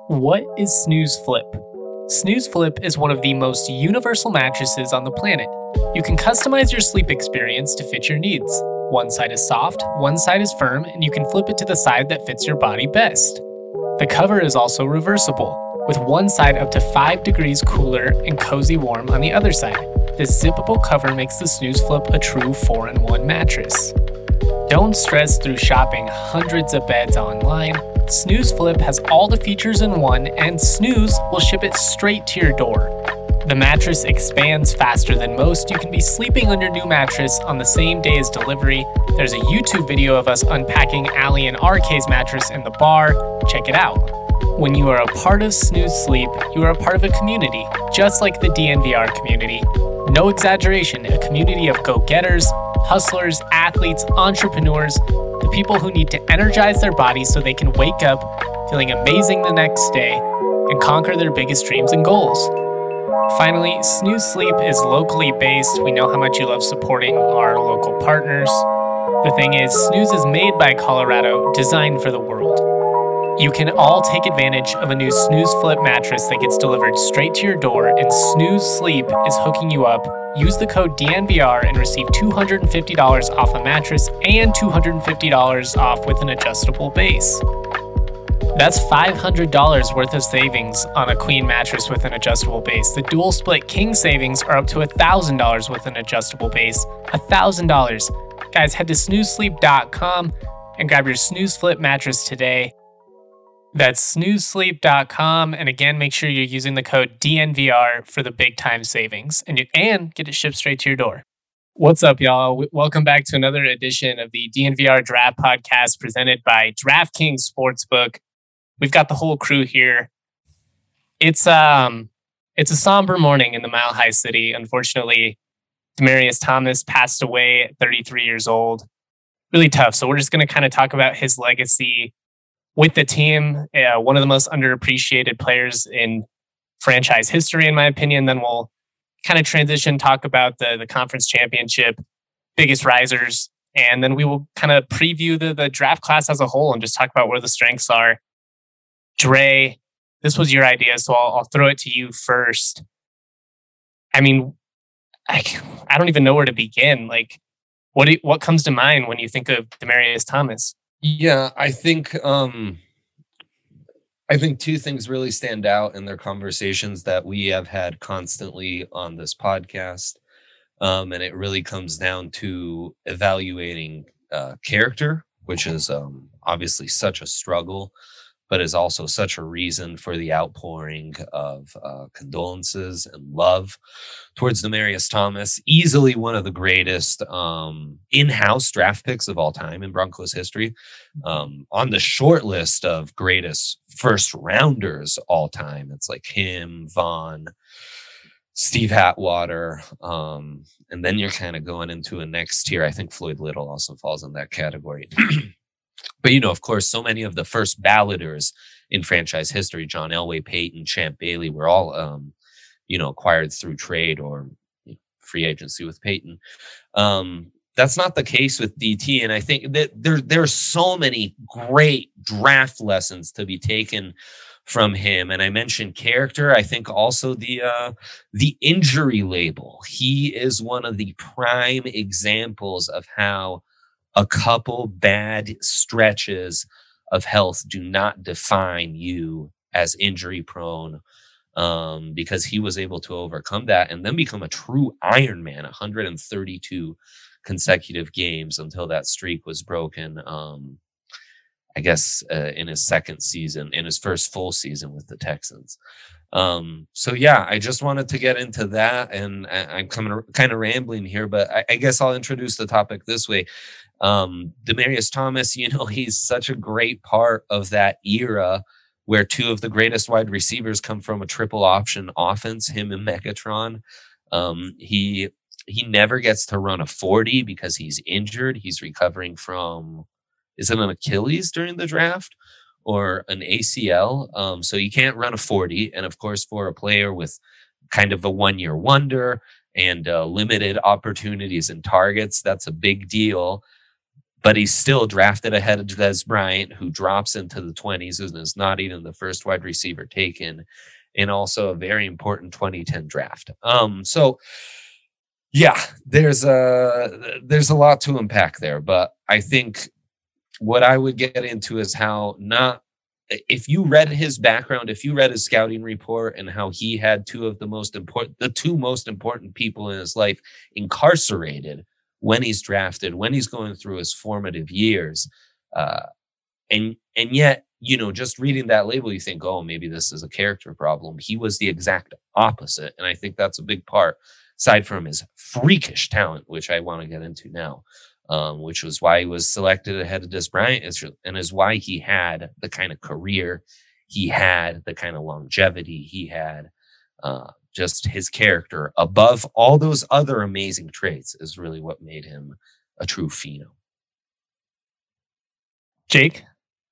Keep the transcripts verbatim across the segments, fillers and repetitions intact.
What is Snooze Flip? Snooze Flip is one of the most universal mattresses on the planet. You can customize your sleep experience to fit your needs. One side is soft, one side is firm, and you can flip it to the side that fits your body best. The cover is also reversible, with one side up to five degrees cooler and cozy warm on the other side. This zippable cover makes the Snooze Flip a true four in one mattress. Don't stress through shopping hundreds of beds online. Snooze Flip has all the features in one, and Snooze will ship it straight to your door. The mattress expands faster than most. You can be sleeping on your new mattress on the same day as delivery. There's a YouTube video of us unpacking Allie and R K's mattress in the bar. Check it out. When you are a part of Snooze Sleep, you are a part of a community, just like the D N V R community. No exaggeration, a community of go-getters, hustlers, athletes, entrepreneurs, the people who need to energize their bodies so they can wake up feeling amazing the next day and conquer their biggest dreams and goals. Finally, Snooze Sleep is locally based. We know how much you love supporting our local partners. The thing is, Snooze is made by Colorado, designed for the world. You can all take advantage of a new Snooze Flip mattress that gets delivered straight to your door, and Snooze Sleep is hooking you up. Use the code D N V R and receive two hundred fifty dollars off a mattress and two hundred fifty dollars off with an adjustable base. That's five hundred dollars worth of savings on a queen mattress with an adjustable base. The dual split king savings are up to one thousand dollars with an adjustable base. one thousand dollars. Guys, head to snooze sleep dot com and grab your Snooze Flip mattress today. That's snooze sleep dot com, and again, make sure you're using the code D N V R for the big time savings, and you and get it shipped straight to your door. What's up, y'all? W- welcome back to another edition of the D N V R Draft Podcast presented by DraftKings Sportsbook. We've got the whole crew here. It's um, it's a somber morning in the Mile High City. Unfortunately, Demaryius Thomas passed away at thirty-three years old. Really tough. So we're just going to kind of talk about his legacy with the team, uh, one of the most underappreciated players in franchise history, in my opinion. Then we'll kind of transition, talk about the, the conference championship, biggest risers, and then we will kind of preview the, the draft class as a whole and just talk about where the strengths are. Dre, this was your idea, so I'll, I'll throw it to you first. I mean, I, I don't even know where to begin. Like, what do, what comes to mind when you think of Demaryius Thomas? Yeah, I think um, I think two things really stand out in their conversations that we have had constantly on this podcast, um, and it really comes down to evaluating uh, character, which is um, obviously such a struggle, but is also such a reason for the outpouring of uh, condolences and love towards Demaryius Thomas. Easily one of the greatest um, in-house draft picks of all time in Broncos history. Um, on the short list of greatest first rounders all time, it's like him, Vaughn, Steve Atwater, um, and then you're kind of going into a next tier. I think Floyd Little also falls in that category. But, you know, of course, so many of the first balloters in franchise history, John Elway, Peyton, Champ Bailey, were all, um, you know, acquired through trade or you know, free agency with Peyton. Um, that's not the case with D T. And I think that there, there are so many great draft lessons to be taken from him. And I mentioned character. I think also the uh, the injury label. He is one of the prime examples of how a couple bad stretches of health do not define you as injury prone, um, because he was able to overcome that and then become a true Iron Man, one hundred thirty-two consecutive games until that streak was broken. Um, I guess uh, in his second season, in his first full season with the Texans. Um, so yeah, I just wanted to get into that, and I, I'm coming kind of rambling here, but I, I guess I'll introduce the topic this way. Um, Demaryius Thomas, you know, he's such a great part of that era where two of the greatest wide receivers come from a triple option offense, him and Megatron. Um, he he never gets to run a forty because he's injured. He's recovering from, is it an Achilles during the draft or an A C L? Um, so you can't run a forty. And of course, for a player with kind of a one-year wonder and uh, limited opportunities and targets, that's a big deal. but he's still drafted ahead of Dez Bryant, who drops into the twenties and is not even the first wide receiver taken, and also a very important twenty ten draft. Um, so yeah, there's a there's a lot to unpack there, but I think what I would get into is how not if you read his background, if you read his scouting report and how he had two of the most important, the two most important people in his life incarcerated when he's drafted, when he's going through his formative years. Uh, and, and yet, you know, just reading that label, you think, oh, maybe this is a character problem. He was the exact opposite. And I think that's a big part, aside from his freakish talent, which I want to get into now, um, which was why he was selected ahead of Dez Bryant, and is why he had the kind of career he had, the kind of longevity he had. Uh, just his character above all those other amazing traits is really what made him a true phenom. Jake?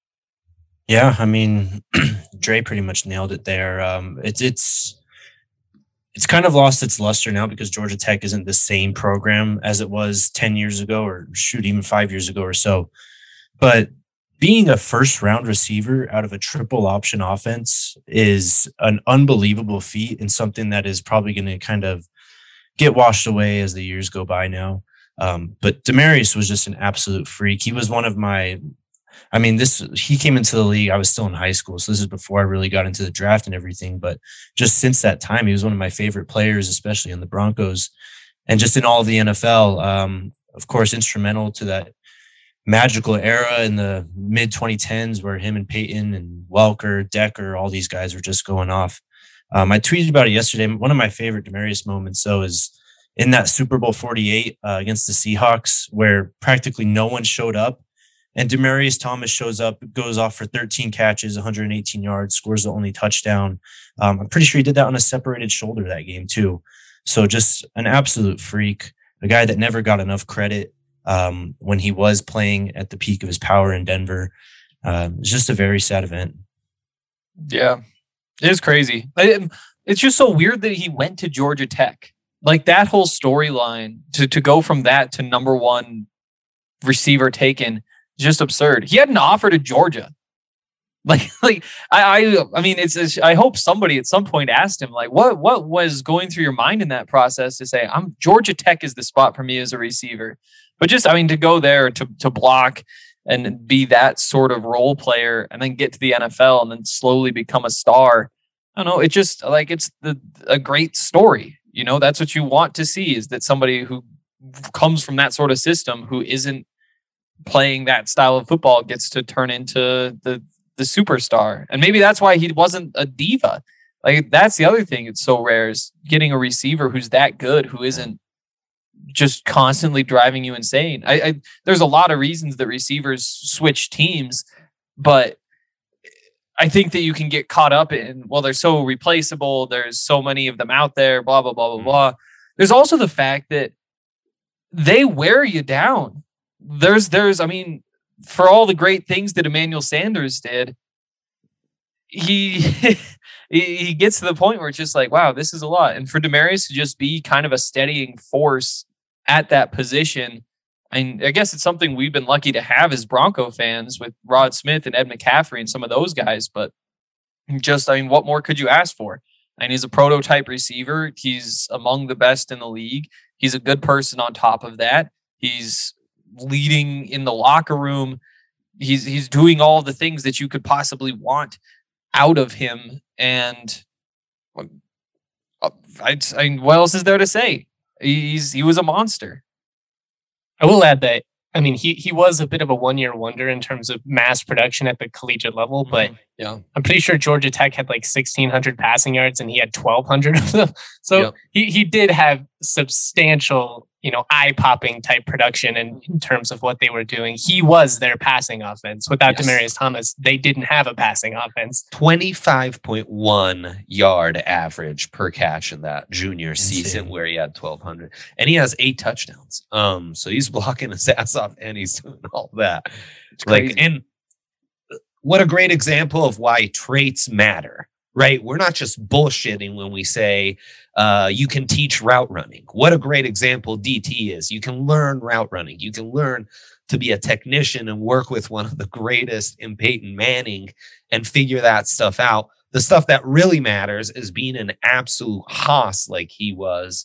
Yeah, I mean, Dre pretty much nailed it there. Um, it's it's it's kind of lost its luster now because Georgia Tech isn't the same program as it was ten years ago, or shoot, even five years ago or so. But being a first round receiver out of a triple option offense is an unbelievable feat, and something that is probably going to kind of get washed away as the years go by now. Um, but Demaryius was just an absolute freak. He was one of my, I mean, this, he came into the league, I was still in high school. So this is before I really got into the draft and everything. But just since that time, he was one of my favorite players, especially in the Broncos and just in all of the N F L. Um, of course, instrumental to that magical era in the mid twenty tens where him and Peyton and Welker, Decker, all these guys were just going off. Um, I tweeted about it yesterday. One of my favorite Demaryius moments, though, is in that Super Bowl forty-eight uh, against the Seahawks, where practically no one showed up. And Demaryius Thomas shows up, goes off for thirteen catches, one hundred eighteen yards, scores the only touchdown. Um, I'm pretty sure he did that on a separated shoulder that game, too. So just an absolute freak, a guy that never got enough credit. Um, when he was playing at the peak of his power in Denver. Uh, it's just a very sad event. Yeah, it is crazy. It's just so weird that he went to Georgia Tech. Like that whole storyline to, to go from that to number one receiver taken, just absurd. He had an offer to Georgia. Like, like I, I, I mean, it's, it's. I hope somebody at some point asked him, like, what, what was going through your mind in that process to say, "I'm Georgia Tech is the spot for me as a receiver." But just, I mean, to go there to to block and be that sort of role player, and then get to the N F L and then slowly become a star. I don't know. It just like it's the a great story. You know, that's what you want to see, is that somebody who comes from that sort of system, who isn't playing that style of football, gets to turn into the the superstar. And maybe that's why he wasn't a diva. Like that's the other thing. It's so rare, is getting a receiver who's that good, who isn't just constantly driving you insane. I, I there's a lot of reasons that receivers switch teams, but I think that you can get caught up in, well, they're so replaceable. There's so many of them out there, blah, blah, blah, blah, blah. There's also the fact that they wear you down. There's, there's, I mean, for all the great things that Emmanuel Sanders did, he he gets to the point where it's just like, wow, this is a lot. And for Demaryius to just be kind of a steadying force at that position, and I guess it's something we've been lucky to have as Bronco fans with Rod Smith and Ed McCaffrey and some of those guys. But just, I mean, what more could you ask for? And he's a prototype receiver. He's among the best in the league. He's a good person on top of that. He's leading in the locker room. He's he's doing all the things that you could possibly want out of him. And I, I mean, what else is there to say? He's he was a monster. I will add that, I mean, he he was a bit of a one-year wonder in terms of mass production at the collegiate level, but yeah, I'm pretty sure Georgia Tech had like sixteen hundred passing yards and he had twelve hundred of them. So yep. he, he did have substantial, you know, eye-popping type production in, in terms of what they were doing. He was their passing offense. Without yes. Demaryius Thomas, they didn't have a passing offense. twenty-five point one yard average per catch in that junior Insane. season where he had twelve hundred. And he has eight touchdowns. Um, so he's blocking his ass off and he's doing all that. It's crazy. Like, and what a great example of why traits matter, right? We're not just bullshitting when we say uh, you can teach route running. What a great example D T is. You can learn route running. You can learn to be a technician and work with one of the greatest in Peyton Manning and figure that stuff out. The stuff that really matters is being an absolute hoss like he was.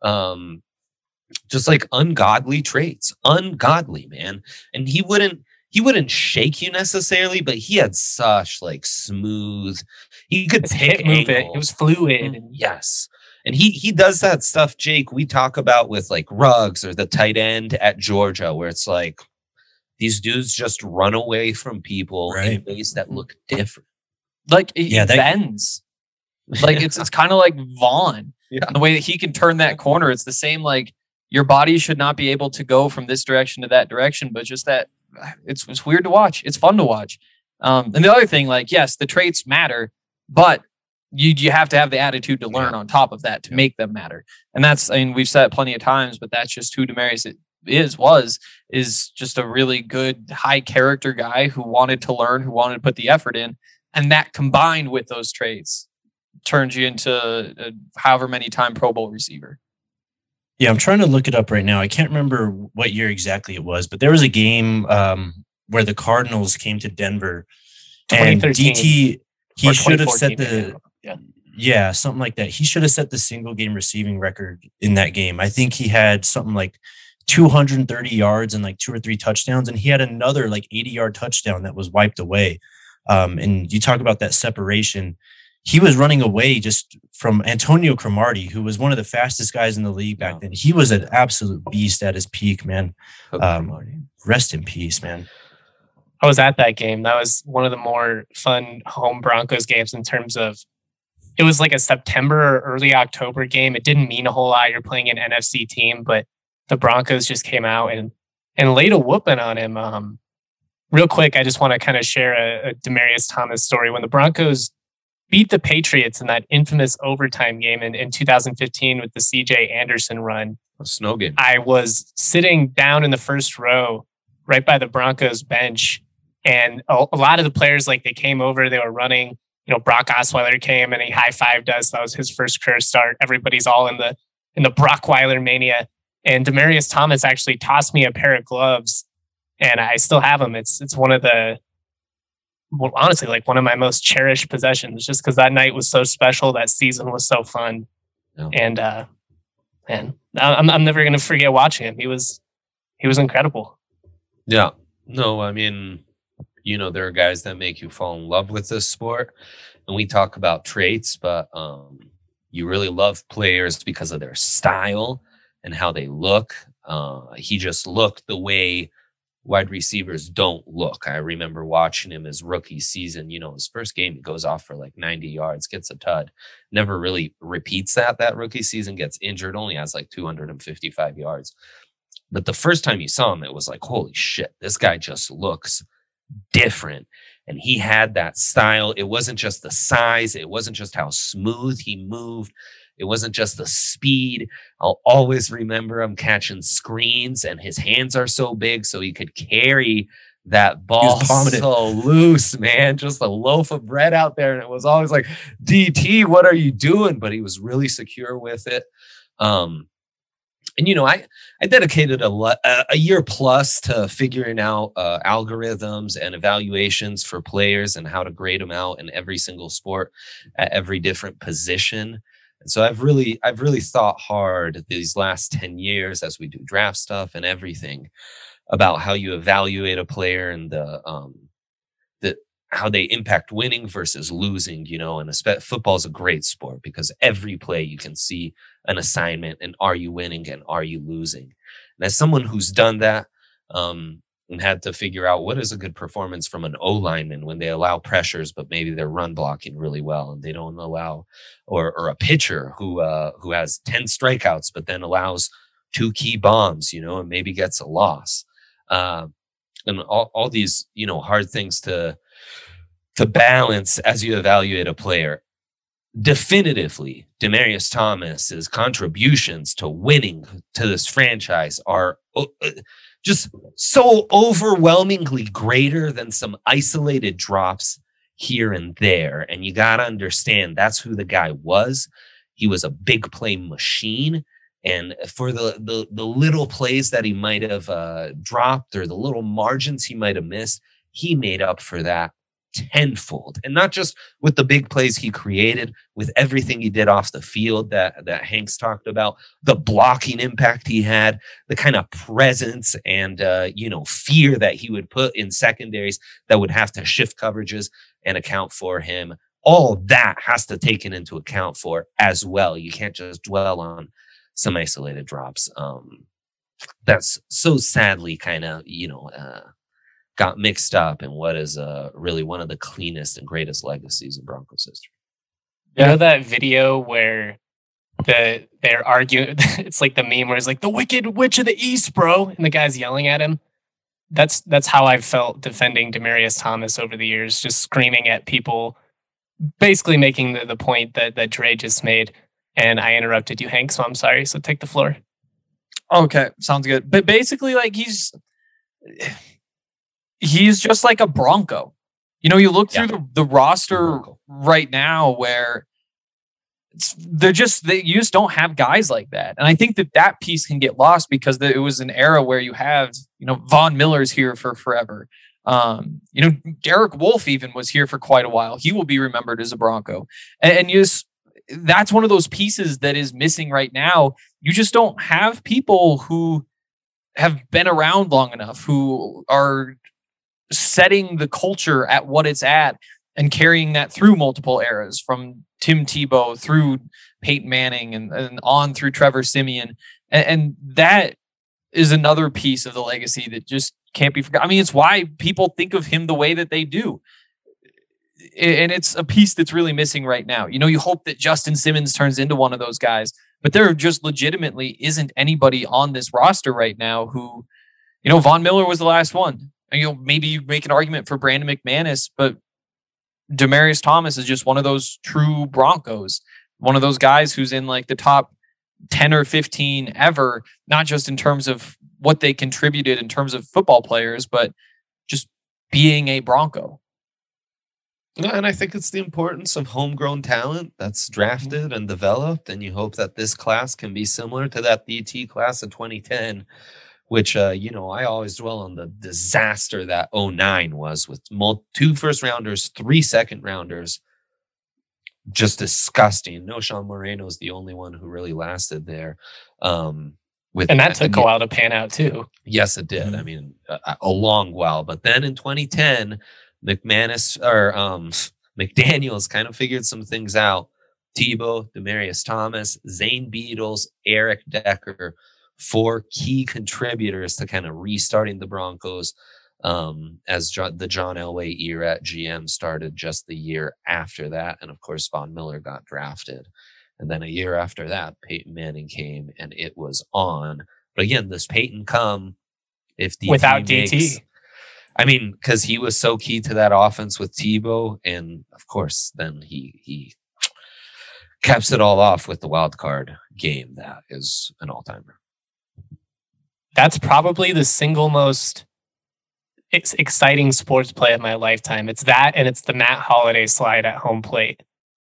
Um, just like ungodly traits, ungodly, man. And he wouldn't, he wouldn't shake you necessarily, but he had such like smooth, he could His pick hip movement, angles. it was fluid. And Yes. And he he does that stuff, Jake, we talk about with like Ruggs or the tight end at Georgia, where it's like these dudes just run away from people in Right. ways that look different. Like it Yeah, that- bends. Like it's it's kind of like Vaughn. Yeah. The way that he can turn that corner, it's the same. Like your body should not be able to go from this direction to that direction, but just that it's it's weird to watch. It's fun to watch. Um, and the other thing, like yes, the traits matter, but you you have to have the attitude to learn Yeah. on top of that to Yeah. make them matter. And that's, I mean, we've said it plenty of times, but that's just who Demaryius it is was is just a really good high character guy who wanted to learn, who wanted to put the effort in, and that combined with those traits turns you into a however many time Pro Bowl receiver. Yeah, I'm trying to look it up right now. I can't remember what year exactly it was, but there was a game um, where the Cardinals came to Denver, and twenty thirteen D T he or should have set twenty fourteen, the yeah. yeah something like that. He should have set the single game receiving record in that game. I think he had something like two hundred thirty yards and like two or three touchdowns, and he had another like eighty yard touchdown that was wiped away. Um, and you talk about that separation. He was running away just from Antonio Cromartie, who was one of the fastest guys in the league back Yeah. then. He was an absolute beast at his peak, man. Okay, Um, Marty. Rest in peace, man. I was at that game. That was one of the more fun home Broncos games in terms of it was like a September or early October game. It didn't mean a whole lot. You're playing an N F C team, but the Broncos just came out and and laid a whooping on him. Um, real quick, I just want to kind of share a, a Demaryius Thomas story. When the Broncos beat the Patriots in that infamous overtime game in, in two thousand fifteen with the C J Anderson run, A snow game. I was sitting down in the first row right by the Broncos bench. And a, a lot of the players, like they came over, they were running, you know, Brock Osweiler came and he high-fived us. That was his first career start. Everybody's all in the, in the Brockweiler mania. And Demaryius Thomas actually tossed me a pair of gloves and I still have them. It's, it's one of the, well, honestly, like one of my most cherished possessions, just because that night was so special. That season was so fun. Yeah. And, uh, man, I'm, I'm never going to forget watching him. He was, he was incredible. Yeah. No, I mean, you know, there are guys that make you fall in love with this sport. And we talk about traits, but um, you really love players because of their style and how they look. Uh, he just looked the way wide receivers don't look. I remember watching him his rookie season. You know, his first game, he goes off for like ninety yards, gets a tud. Never really repeats that. That rookie season, gets injured, only has like two hundred fifty-five yards. But the first time you saw him, it was like, holy shit, this guy just looks different. And he had that style. It wasn't just the size. It wasn't just how smooth he moved. It wasn't just the speed. I'll always remember him catching screens and his hands are so big so he could carry that ball palming it. so loose, man. Just a loaf of bread out there. And it was always like, D T, what are you doing? But he was really secure with it. Um, And, you know, I, I dedicated a, le- a year plus to figuring out uh, algorithms and evaluations for players and how to grade them out in every single sport at every different position. And so I've really, I've really thought hard these last ten years as we do draft stuff and everything about how you evaluate a player and the, um, the, how they impact winning versus losing, you know, and espe- football is a great sport because every play you can see an assignment and are you winning and are you losing? And as someone who's done that um, and had to figure out what is a good performance from an O lineman when they allow pressures, but maybe they're run blocking really well and they don't allow, or or a pitcher who uh, who has ten strikeouts, but then allows two key bombs, you know, and maybe gets a loss. Uh, and all, all these, you know, hard things to, to balance as you evaluate a player. Definitively, Demaryius Thomas's contributions to winning to this franchise are uh, just so overwhelmingly greater than some isolated drops here and there. And you got to understand that's who the guy was. He was a big play machine. And for the the, the little plays that he might have uh, dropped or the little margins he might have missed, he made up for that tenfold. And not just with the big plays he created, with everything he did off the field that, that Hanks talked about, the blocking impact he had, the kind of presence and, uh, you know, fear that he would put in secondaries that would have to shift coverages and account for him. All that has to take it into account for as well. You can't just dwell on some isolated drops. Um, that's so sadly kind of, you know, uh, got mixed up in what is uh, really one of the cleanest and greatest legacies in Broncos history. You know that video where the they're arguing? It's like the meme where it's like the Wicked Witch of the East, bro, and the guy's yelling at him. That's that's how I've felt defending Demaryius Thomas over the years, just screaming at people, basically making the, the point that that Dre just made. And I interrupted you, Hank, so I'm sorry. So take the floor. Okay, sounds good. But basically, like he's. He's just like a Bronco. You know, you look Yeah. through the, the roster right now where it's, they're just, they, you just don't have guys like that. And I think that that piece can get lost because the, it was an era where you have, you know, Von Miller's here for forever. Um, you know, Derek Wolfe even was here for quite a while. He will be remembered as a Bronco. And, and you just, that's one of those pieces that is missing right now. You just don't have people who have been around long enough, who are setting the culture at what it's at and carrying that through multiple eras, from Tim Tebow through Peyton Manning and, and on through Trevor Siemian. And, and that is another piece of the legacy that just can't be forgotten. I mean, it's why people think of him the way that they do. And it's a piece that's really missing right now. You know, you hope that Justin Simmons turns into one of those guys, but there just legitimately isn't anybody on this roster right now who, you know, Von Miller was the last one. And, you know, maybe you make an argument for Brandon McManus, but Demaryius Thomas is just one of those true Broncos, one of those guys who's in like the top ten or fifteen ever, not just in terms of what they contributed in terms of football players, but just being a Bronco. Yeah, and I think it's the importance of homegrown talent that's drafted and developed, and you hope that this class can be similar to that D T class of twenty ten, which, uh, you know, I always dwell on the disaster that oh nine was with mul- two first rounders, three second rounders. Just disgusting. No, Sean Moreno's the only one who really lasted there. Um, with And that took I a mean, while to pan out too. Yes, it did. Mhm. I mean, a, a long while. But then in twenty ten, McManus or um, McDaniels kind of figured some things out. Tebow, Demaryius Thomas, Zane Beadles, Eric Decker, four key contributors to kind of restarting the Broncos um, as jo- the John Elway era at G M started just the year after that. And of course, Von Miller got drafted. And then a year after that, Peyton Manning came and it was on. But again, does Peyton come if D T Without makes, D T? I mean, because he was so key to that offense with Tebow. And of course, then he he caps it all off with the wild card game. That is an all-timer. That's probably the single most ex- exciting sports play of my lifetime. It's that, and it's the Matt Holiday slide at home plate.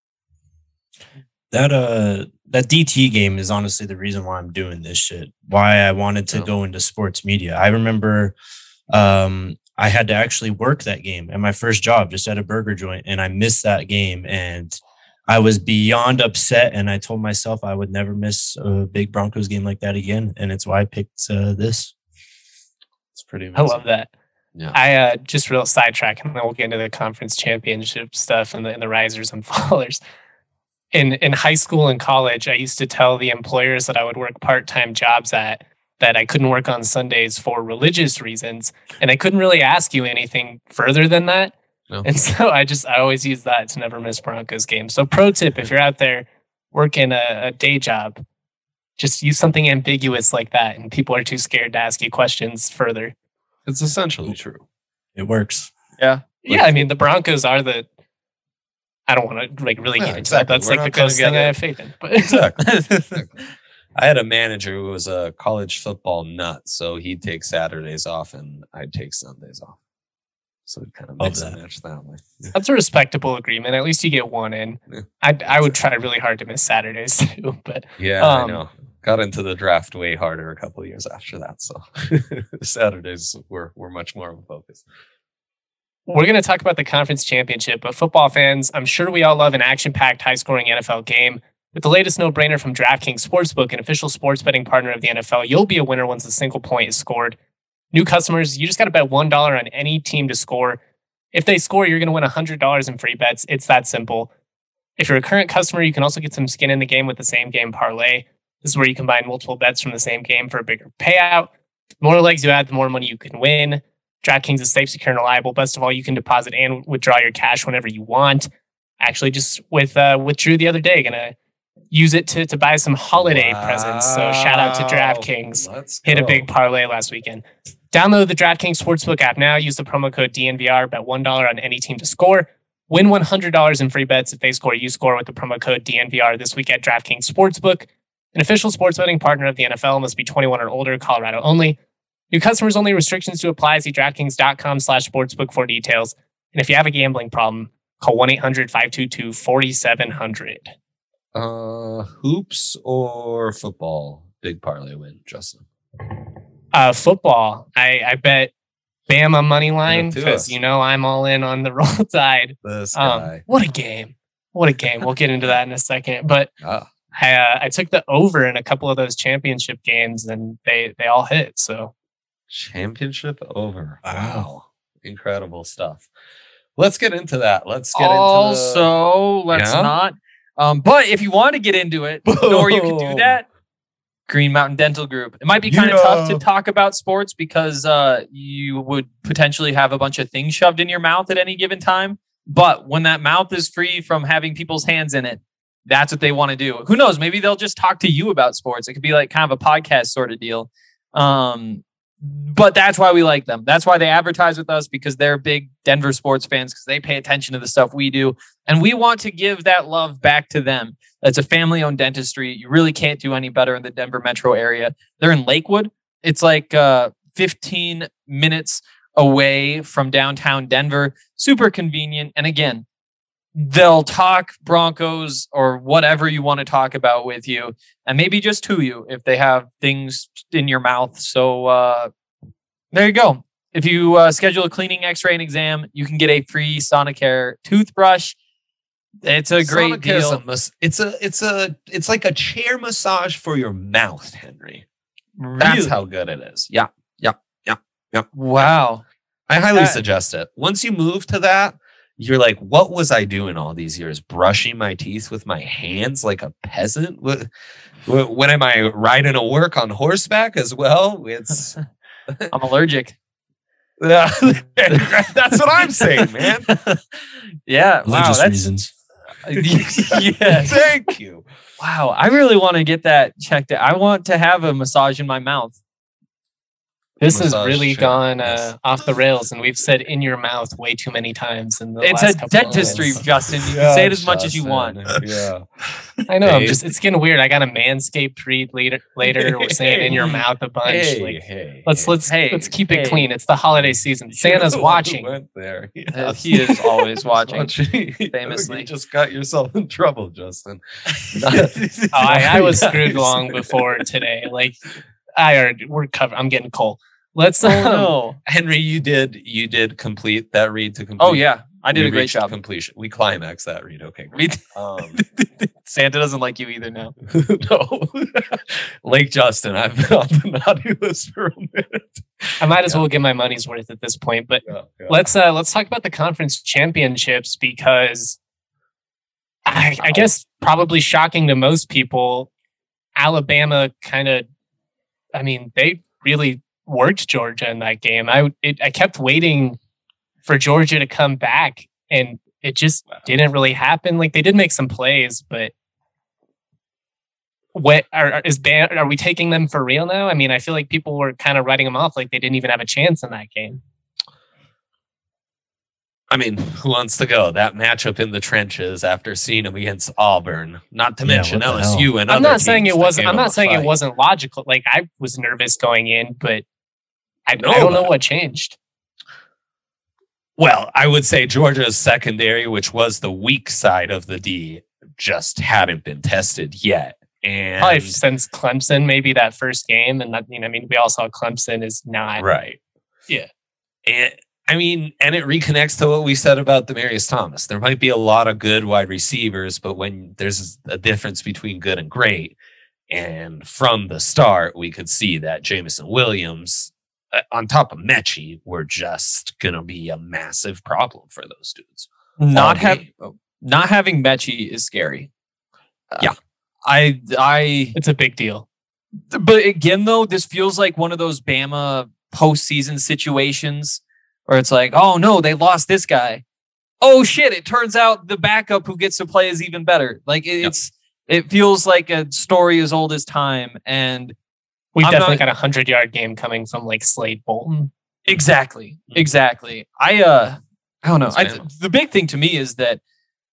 That uh that D T game is honestly the reason why I'm doing this shit. Why I wanted to Oh. go into sports media. I remember um I had to actually work that game at my first job, just at a burger joint, and I missed that game, and I was beyond upset, and I told myself I would never miss a big Broncos game like that again, and it's why I picked uh, this. It's pretty I amazing. love that. Yeah. I uh, just real sidetrack, and then we'll get into the conference championship stuff and the, and the risers and fallers. In in high school and college, I used to tell the employers that I would work part-time jobs at that I couldn't work on Sundays for religious reasons, and I couldn't really ask you anything further than that. No. And so I just I always use that to never miss Broncos games. So pro tip, if you're out there working a, a day job, just use something ambiguous like that, and people are too scared to ask you questions further. It's essentially true. It works. Yeah. Yeah, I mean the Broncos are the. I don't want to like really Yeah, get into exactly. that. That's We're like the not gonna closest get thing I it. have faith in. But Exactly. I had a manager who was a college football nut, so he'd take Saturdays off and I'd take Sundays off. So it kind of Love mix and that. match that way. Yeah. that's a respectable agreement. At least you get one in. Yeah. I I would try really hard to miss Saturdays too, but Yeah, Um, I know. got into the draft way harder a couple of years after that. So Saturdays were, were much more of a focus. We're going to talk about the conference championship, but football fans, I'm sure we all love an action-packed, high-scoring N F L game. With the latest no-brainer from DraftKings Sportsbook, an official sports betting partner of the N F L, you'll be a winner once a single point is scored. New customers, you just got to bet one dollar on any team to score. If they score, you're going to win one hundred dollars in free bets. It's that simple. If you're a current customer, you can also get some skin in the game with the same game parlay. This is where you combine multiple bets from the same game for a bigger payout. The more legs you add, the more money you can win. DraftKings is safe, secure, and reliable. Best of all, you can deposit and withdraw your cash whenever you want. Actually, just with uh, withdrew the other day. Gonna use it to, to buy some holiday wow. presents. So shout out to DraftKings. Let's Hit go. a big parlay last weekend. Download the DraftKings Sportsbook app now. Use the promo code D N V R. Bet one dollar on any team to score. Win one hundred dollars in free bets. If they score, you score with the promo code D N V R this week at DraftKings Sportsbook. An official sports betting partner of the N F L. Must be twenty-one or older. Colorado only. New customers only. Restrictions to apply. See DraftKings.com slash sportsbook for details. And if you have a gambling problem, call one eight hundred five two two four seven zero zero. Uh, hoops or football? Big parlay win, Justin. Uh, football. I, I bet Bama money line Yeah, because, us. you know, I'm all in on the Roll Tide. This Um, guy. what a game. What a game. We'll get into that in a second. But Ah, I, uh, I took the over in a couple of those championship games and they, they all hit. So championship over. Wow. Wow. Incredible stuff. Let's get into that. Let's get Also, into let's Yeah? not. Um, but if you want to get into it, you know where you can do that? Green Mountain Dental Group. It might be kind of Yeah. tough to talk about sports because uh, you would potentially have a bunch of things shoved in your mouth at any given time. But when that mouth is free from having people's hands in it, that's what they want to do. Who knows? Maybe they'll just talk to you about sports. It could be like kind of a podcast sort of deal. Um, but that's why we like them. That's why they advertise with us, because they're big Denver sports fans, because they pay attention to the stuff we do. And we want to give that love back to them. It's a family-owned dentistry. You really can't do any better in the Denver metro area. They're in Lakewood. It's like uh, fifteen minutes away from downtown Denver. Super convenient. And again, they'll talk Broncos or whatever you want to talk about with you, and maybe just to you if they have things in your mouth. So uh, there you go. If you uh, schedule a cleaning, x-ray, and exam, you can get a free Sonicare toothbrush. It's a great Sonicare is deal. a mas- it's a it's a it's like a chair massage for your mouth, Henry. That's Really? how good it is. Yeah. Yeah. Yeah. Yeah. Wow. I highly That- suggest it. Once you move to that, you're like, what was I doing all these years? Brushing my teeth with my hands like a peasant? What, what, when am I riding to work on horseback as well? It's I'm allergic. Yeah, that's what I'm saying, man. Yeah. Wow. Religious That's, reasons. yeah. Thank you. Wow. I really want to get that checked out. I want to have a massage in my mouth. this has Massage really chair. gone uh, Yes. off the rails, and we've said in your mouth way too many times in the It's last a couple of dentistry, minutes. Justin. You can say it as much as you Justin. want. Yeah. I know. I'm Hey. just it's getting weird. I got a Manscaped read later. Later, we're saying in your mouth a bunch. Hey, like, hey, let's hey. let's Hey, let's keep it hey. clean. It's the holiday season. Santa's You watching. went there. Uh, Yes. He is always watching. Famously. famously. You just got yourself in trouble, Justin. Oh, I, I was Nice. screwed long before today. Like I already we're covered. I'm getting cold. Let's Oh um, no. Henry, you did you did complete that read to complete. Oh yeah. I did We a great reached job. Completion. We climaxed that read. Okay. Great. We Um, Santa doesn't like you either now. no, Lake Justin. I've been on the naughty list for a minute. I might as Yeah. well get my money's worth at this point. But Yeah, yeah. let's uh let's talk about the conference championships, because I, I guess probably shocking to most people, Alabama kind of, I mean, they really worked Georgia in that game. I it, I kept waiting for Georgia to come back, and it just didn't really happen. Like they did make some plays, but what are are- is Bam, are we taking them for real now? I mean, I feel like people were kind of writing them off like they didn't even have a chance in that game. I mean, who wants to go that matchup in the trenches after seeing them against Auburn? Not to Yeah, mention what the L S U and I'm other not saying teams it that wasn't. gave I'm them not a saying it fight. wasn't logical. Like I was nervous going in, but I, No, I don't know but- what changed. Well, I would say Georgia's secondary, which was the weak side of the D, just hadn't been tested yet. And Probably since Clemson, maybe that first game. And that, you know, I mean, we all saw Clemson is not. Right. Yeah. And I mean, and it reconnects to what we said about Demaryius Thomas. There might be a lot of good wide receivers, but when there's a difference between good and great, and from the start, we could see that Jameson Williams, uh, on top of Mechie, were just going to be a massive problem for those dudes. Not having not having Mechie is scary. Uh, yeah, I I it's a big deal. But again, though, this feels like one of those Bama postseason situations where it's like, oh no, they lost this guy. Oh shit! It turns out the backup who gets to play is even better. Like it, yep. it's. It feels like a story as old as time, and we've I'm definitely not, got a hundred yard game coming from like Slade Bolton. Exactly, exactly. I uh, I don't know. I, the big thing to me is that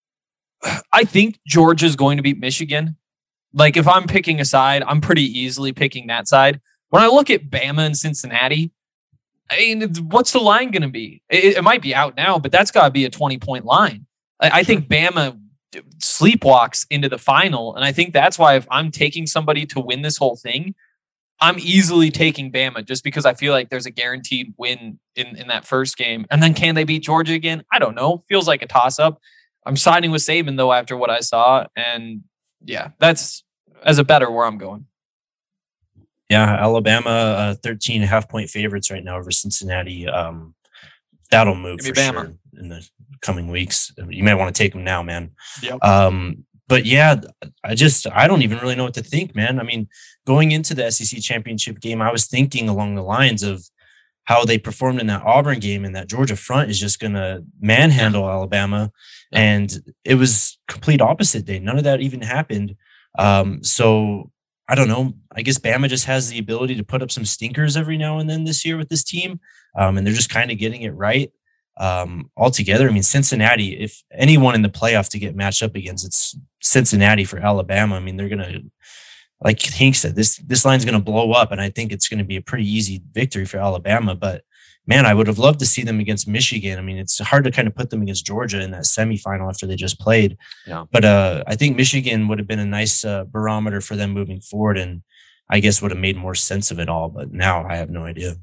I think Georgia's going to beat Michigan. Like if I'm picking a side, I'm pretty easily picking that side. When I look at Bama and Cincinnati, I mean, what's the line going to be? It, it might be out now, but that's got to be a twenty point line. I, I think Bama sleepwalks into the final, and I think that's why if I'm taking somebody to win this whole thing, I'm easily taking Bama just because I feel like there's a guaranteed win in, in that first game. And then can they beat Georgia again? I don't know. Feels like a toss-up. I'm siding with Saban, though, after what I saw. And yeah, that's as a better where I'm going. Yeah, Alabama, uh, thirteen and a half point favorites right now over Cincinnati. Um, that'll move for Bama. sure in the coming weeks. You might want to take them now, man. Yep. Um, but yeah, I just, I don't even really know what to think, man. I mean, going into the S E C championship game, I was thinking along the lines of how they performed in that Auburn game, and that Georgia front is just going to manhandle Alabama. And it was complete opposite day. None of that even happened. Um, so I don't know. I guess Bama just has the ability to put up some stinkers every now and then this year with this team. Um, and they're just kind of getting it right. Um, altogether, I mean, Cincinnati, if anyone in the playoff to get matched up against, it's Cincinnati for Alabama. I mean, they're going to, like Hank said, this, this line's going to blow up, and I think it's going to be a pretty easy victory for Alabama. But man, I would have loved to see them against Michigan. I mean, it's hard to kind of put them against Georgia in that semifinal after they just played. Yeah. But uh, I think Michigan would have been a nice uh, barometer for them moving forward, and I guess would have made more sense of it all. But now I have no idea.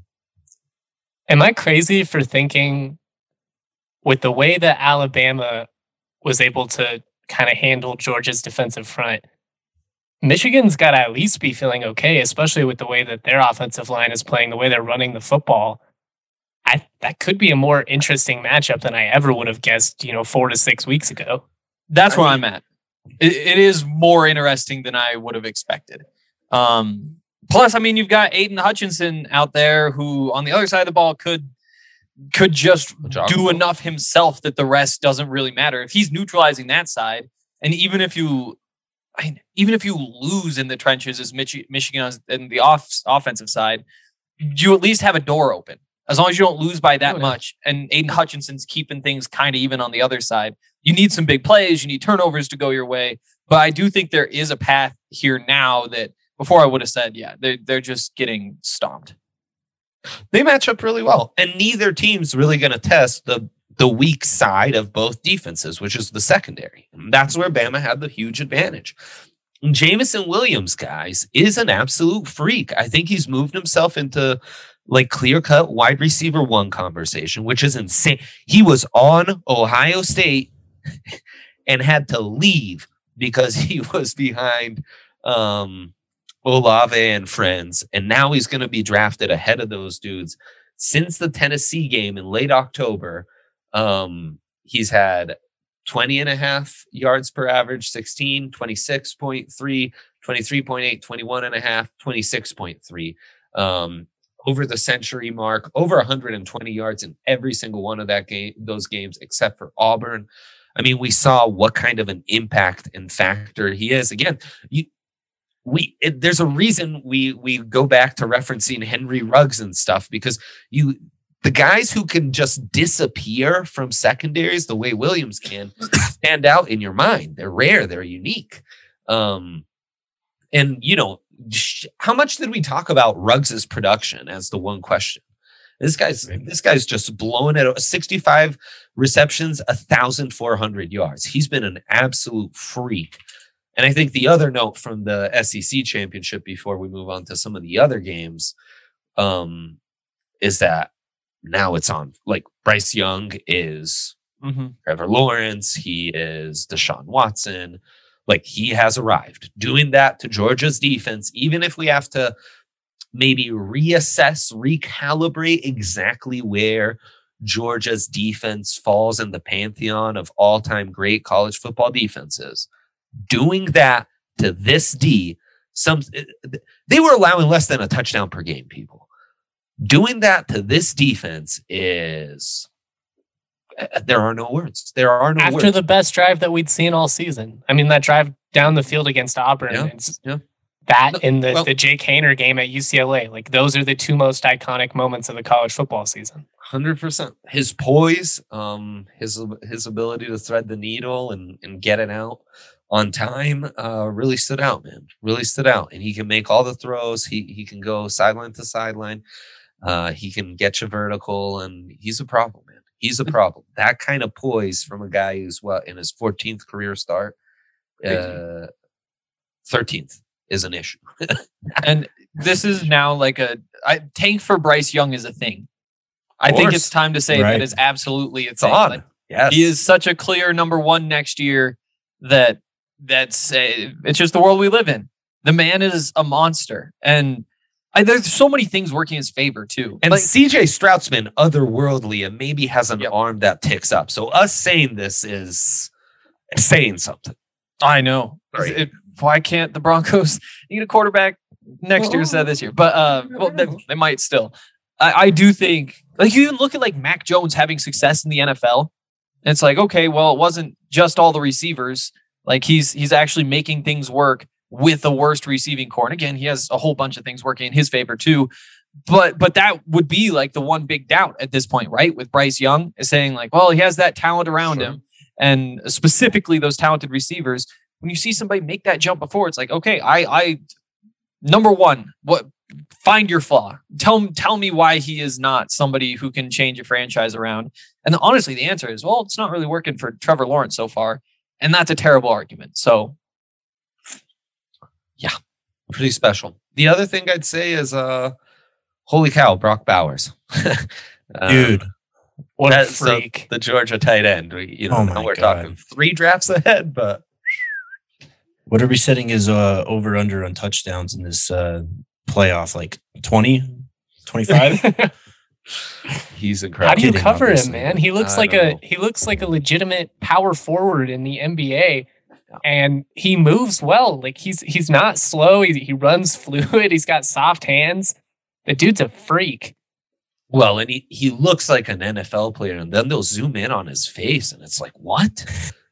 Am I crazy for thinking, with the way that Alabama was able to kind of handle Georgia's defensive front, Michigan's got to at least be feeling okay, especially with the way that their offensive line is playing, the way they're running the football. I, that could be a more interesting matchup than I ever would have guessed, you know, four to six weeks ago. That's I where mean, I'm at. It, it is more interesting than I would have expected. Um, plus, I mean, you've got Aiden Hutchinson out there who, on the other side of the ball, could could just do enough himself that the rest doesn't really matter. If he's neutralizing that side, and even if you, I mean, even if you lose in the trenches as Mich- Michigan and the off offensive side, you at least have a door open. As long as you don't lose by that Oh, yeah. much, and Aiden Hutchinson's keeping things kind of even on the other side. You need some big plays. You need turnovers to go your way. But I do think there is a path here now that before I would have said, yeah, they're, they're just getting stomped. They match up really well, and neither team's really going to test the the weak side of both defenses, which is the secondary. And that's where Bama had the huge advantage. And Jameson Williams, guys, is an absolute freak. I think he's moved himself into like clear-cut wide receiver one conversation, which is insane. He was on Ohio State and had to leave because he was behind um, Olave and friends, and now he's going to be drafted ahead of those dudes. Since the Tennessee game in late October, um, he's had twenty and a half yards per average, sixteen, twenty-six point three, twenty-three point eight, twenty-one and a half, twenty-six point three. Um, over the century mark, over one hundred twenty yards in every single one of that game, those games, except for Auburn. I mean, we saw what kind of an impact and factor he is. Again, you, we it, there's a reason we we go back to referencing Henry Ruggs and stuff, because you the guys who can just disappear from secondaries the way Williams can stand out in your mind. They're rare. They're unique. Um, and you know, sh- how much did we talk about Ruggs's production as the one question? This guy's this guy's just blowing it. sixty-five receptions, one thousand four hundred yards. He's been an absolute freak. And I think the other note from the S E C championship before we move on to some of the other games um, is that now it's on. Like Bryce Young is Mm-hmm. Trevor Lawrence. He is Deshaun Watson. Like he has arrived. Doing that to Georgia's defense, even if we have to maybe reassess, recalibrate exactly where Georgia's defense falls in the pantheon of all-time great college football defenses. Doing that to this D, some they were allowing less than a touchdown per game, people. Doing that to this defense is there are no words. There are no After words. the best drive that we'd seen all season. I mean, that drive down the field against Auburn. Yeah, It's yeah. that No, and the, well- the Jake Haener game at U C L A. Like those are the two most iconic moments of the college football season. one hundred percent. His poise, um, his his ability to thread the needle and, and get it out on time uh, really stood out, man. Really stood out. And he can make all the throws. He he can go sideline to sideline. Uh, he can get you vertical, and he's a problem, man. He's a problem. That kind of poise from a guy who's what in his fourteenth career start, uh, thirteenth is an issue. And this is now like a I, tank for Bryce Young is a thing. I think course. it's time to say Right. that is absolutely a It's thing. on. Like, Yes, he is such a clear number one next year that that's uh, it's just the world we live in. The man is a monster, and I, there's so many things working in his favor too. And Like, C J Stroud's been otherworldly and maybe has an Yep. arm that ticks up. So us saying this is saying something. I know. Right. It- why can't the Broncos need a quarterback next year instead of this year? But uh, well, they, they might still. I, I do think, like, you look at like Mac Jones having success in the N F L. And it's like, okay, well, it wasn't just all the receivers. Like he's he's actually making things work with the worst receiving core. And again, he has a whole bunch of things working in his favor too. But but that would be like the one big doubt at this point, right? With Bryce Young is saying like, well, he has that talent around Sure. him, and specifically those talented receivers. When you see somebody make that jump before, it's like, okay, I I number one, what find your flaw. Tell tell me why he is not somebody who can change a franchise around. And honestly, the answer is, well, it's not really working for Trevor Lawrence so far, and that's a terrible argument. So Pretty special. The other thing I'd say is, uh, holy cow, Brock Bowers. Uh, Dude, What a that's the- freak. The, Georgia tight end. We, you know, Oh now my we're God. talking three drafts ahead, but what are we setting his uh, over under on touchdowns in this uh, playoff? Like twenty, twenty-five? he's How incredible. do you Kidding, cover him, obviously. man? He looks I like don't a know. he looks like a legitimate power forward in the N B A, and he moves well. Like he's he's not slow. He he runs fluid. He's got soft hands. The dude's a freak. Well, and he, he looks like an N F L player, and then they'll zoom in on his face, and it's like, what?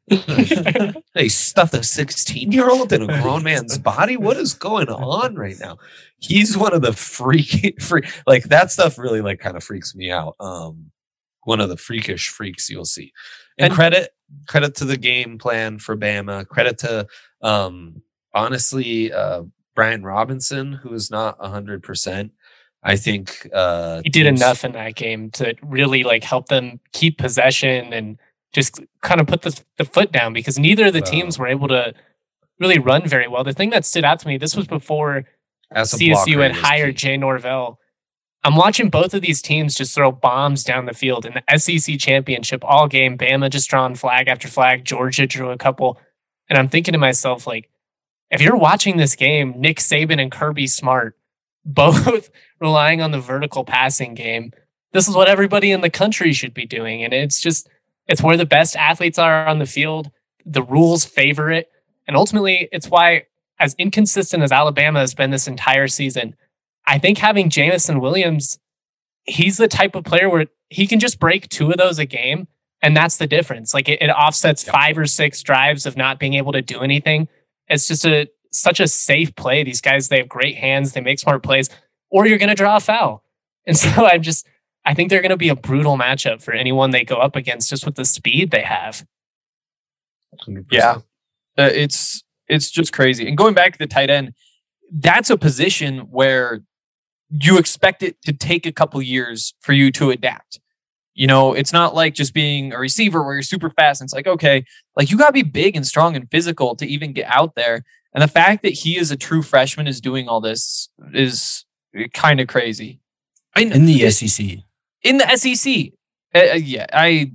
They stuffed a sixteen-year-old in a grown man's body? What is going on right now? He's one of the freaky, freak, like that stuff really like kind of freaks me out. Um, one of the freakish freaks you'll see. And, And- credit credit to the game plan for Bama. Credit to um, honestly uh, Brian Robinson, who is not a hundred percent. I think uh, He did teams- enough in that game to really like help them keep possession and just kind of put the, the foot down, because neither of the Wow. teams were able to really run very well. The thing that stood out to me, this was before as a C S U blocker, had he was hired key. Jay Norvell. I'm watching both of these teams just throw bombs down the field in the S E C championship all game. Bama just drawing flag after flag. Georgia drew a couple. And I'm thinking to myself, like, if you're watching this game, Nick Saban and Kirby Smart, both relying on the vertical passing game, this is what everybody in the country should be doing. And it's just, it's where the best athletes are on the field. The rules favor it. And ultimately, it's why, as inconsistent as Alabama has been this entire season, I think having Jamison Williams, he's the type of player where he can just break two of those a game, and that's the difference. Like it, it offsets Yeah. five or six drives of not being able to do anything. It's just a such a safe play. These guys, they have great hands, they make smart plays, or you're going to draw a foul. And so I'm just, I think they're going to be a brutal matchup for anyone they go up against, just with the speed they have. one hundred percent. Yeah. Uh, it's it's just crazy. And going back to the tight end, that's a position where you expect it to take a couple years for you to adapt. You know, it's not like just being a receiver where you're super fast. And it's like, okay, like you got to be big and strong and physical to even get out there. And the fact that he is a true freshman is doing all this is kind of crazy. I mean, in the S E C. In the S E C. Uh, yeah, I,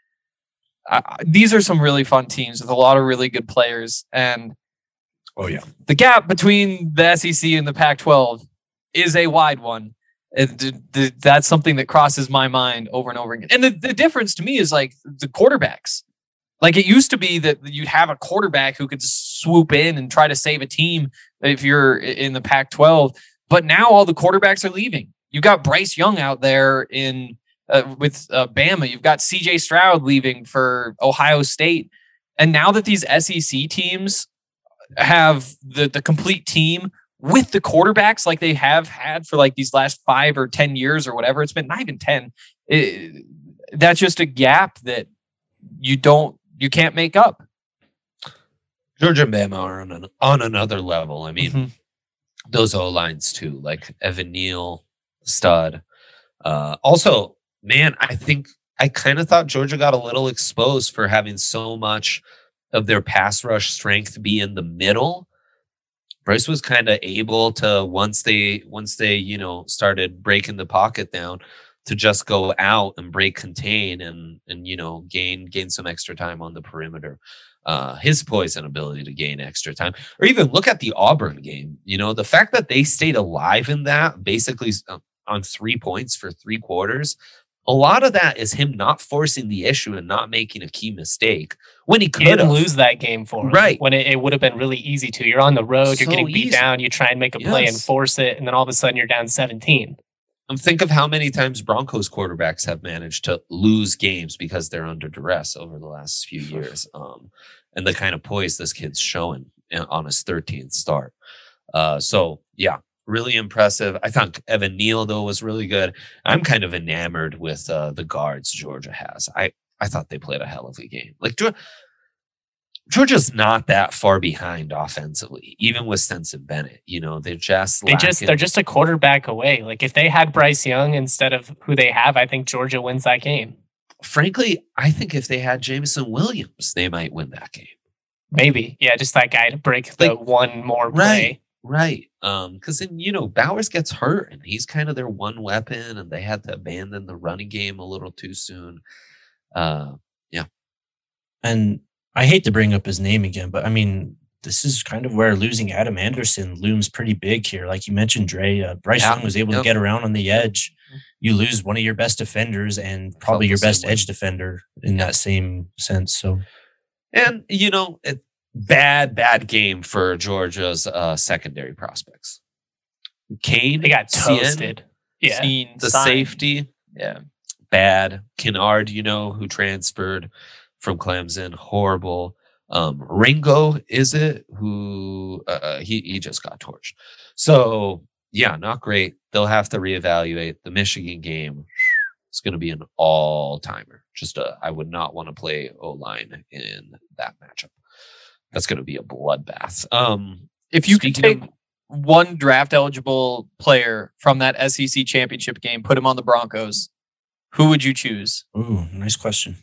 I, these are some really fun teams with a lot of really good players. And oh, yeah, the gap between the S E C and the Pac twelve is a wide one. It, that's something that crosses my mind over and over again. And the, the difference to me is like the quarterbacks. Like it used to be that you'd have a quarterback who could swoop in and try to save a team if you're in the Pac twelve. But now all the quarterbacks are leaving. You've got Bryce Young out there in uh, with uh, Bama. You've got C J Stroud leaving for Ohio State. And now that these S E C teams have the, the complete team with the quarterbacks like they have had for like these last five or ten years or whatever, it's been not even ten. It, that's just a gap that you don't, you can't make up. Georgia and Bama are on, an, on another level. I mean, Mm-hmm. those O-lines too, like Evan Neal, stud. Uh, also, man, I think I kind of thought Georgia got a little exposed for having so much of their pass rush strength be in the middle. Bryce was kind of able to, once they, once they, you know, started breaking the pocket down, to just go out and break contain and, and, you know, gain, gain some extra time on the perimeter. Uh, his poise and ability to gain extra time, or even look at the Auburn game. You know, the fact that they stayed alive in that, basically on three points for three quarters, a lot of that is him not forcing the issue and not making a key mistake when he could He didn't lose that game for him. Right. When it, it would have been really easy to. You're on the road, So you're getting beat easy. down, you try and make a play and Yes. force it, and then all of a sudden you're down seventeen. And think of how many times Broncos quarterbacks have managed to lose games because they're under duress over the last few years. Um, and the kind of poise this kid's showing on his thirteenth start. Uh, so, yeah, really impressive. I thought Evan Neal, though, was really good. I'm kind of enamored with uh, the guards Georgia has. I, I thought they played a hell of a game. Like, Georgia, Georgia's not that far behind offensively, even with Stetson Bennett. You know, they're just They just lacking- they're just a quarterback away. Like if they had Bryce Young instead of who they have, I think Georgia wins that game. Frankly, I think if they had Jameson Williams, they might win that game. Maybe. Yeah, just that guy to break the Like, one more play. Right. Um, because then, you know, Bowers gets hurt and he's kind of their one weapon, and they had to abandon the running game a little too soon. Uh, And I hate to bring up his name again, but I mean, this is kind of where losing Adam Anderson looms pretty big here. Like you mentioned, Dre, uh, Bryce Yeah. Young was able Yep. to get around on the edge. You lose one of your best defenders and probably the your same best way. edge defender in that same sense. So and you know, it, bad, bad game for Georgia's uh, secondary prospects. Kane, They got Cien, toasted. Yeah. Seen, the signed. safety, Yeah. bad. Kennard, you know, who transferred from Clemson, horrible. Um, Ringo, is it who uh, he he just got torched? So yeah, not great. They'll have to reevaluate the Michigan game. It's going to be an all timer. Just a, I would not want to play O line in that matchup. That's going to be a bloodbath. Um, If you could Speaking take one draft eligible player from that S E C championship game, put him on the Broncos, who would you choose? ooh, nice question.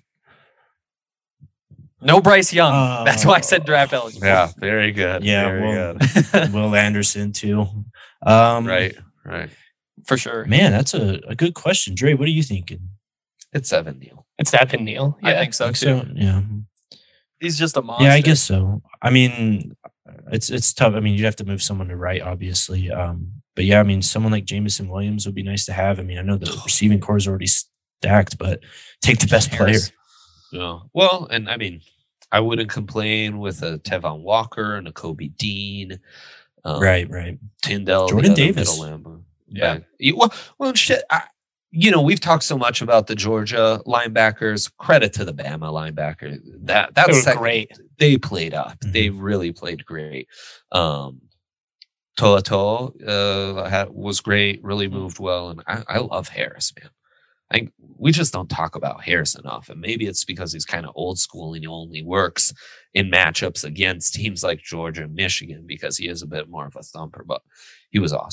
No Bryce Young. Uh, That's why I said draft eligible. yeah, very good. Yeah, very well, good. Will Anderson too. Um, Right, right. For sure. Man, that's a, a good question. Dre, what are you thinking? It's Evan Neal. It's Evan Neal. I Yeah. think so Think too. so? Yeah. He's just a monster. Yeah, I guess so. I mean, it's it's tough. I mean, you'd have to move someone to right, obviously. Um, but yeah, I mean, someone like Jameson Williams would be nice to have. I mean, I know the receiving core is already stacked, but take the best player. Harris. Yeah. Well, and I mean, I wouldn't complain with a Tevon Walker and a Kobe Dean. Um, Right, right. Tyndall. the Jordan other Davis. middle linebacker. Yeah. Back- you- Well, well, shit. I, you know, we've talked so much about the Georgia linebackers. Credit to the Bama linebacker. That They that's were sec- great. They played up. Mhm. They really played great. Um, To'o uh, had, was great. Really moved well, and I, I love Harris, man. I we just don't talk about Harris enough, and maybe it's because he's kind of old school and he only works in matchups against teams like Georgia and Michigan because he is a bit more of a thumper. But he was awesome.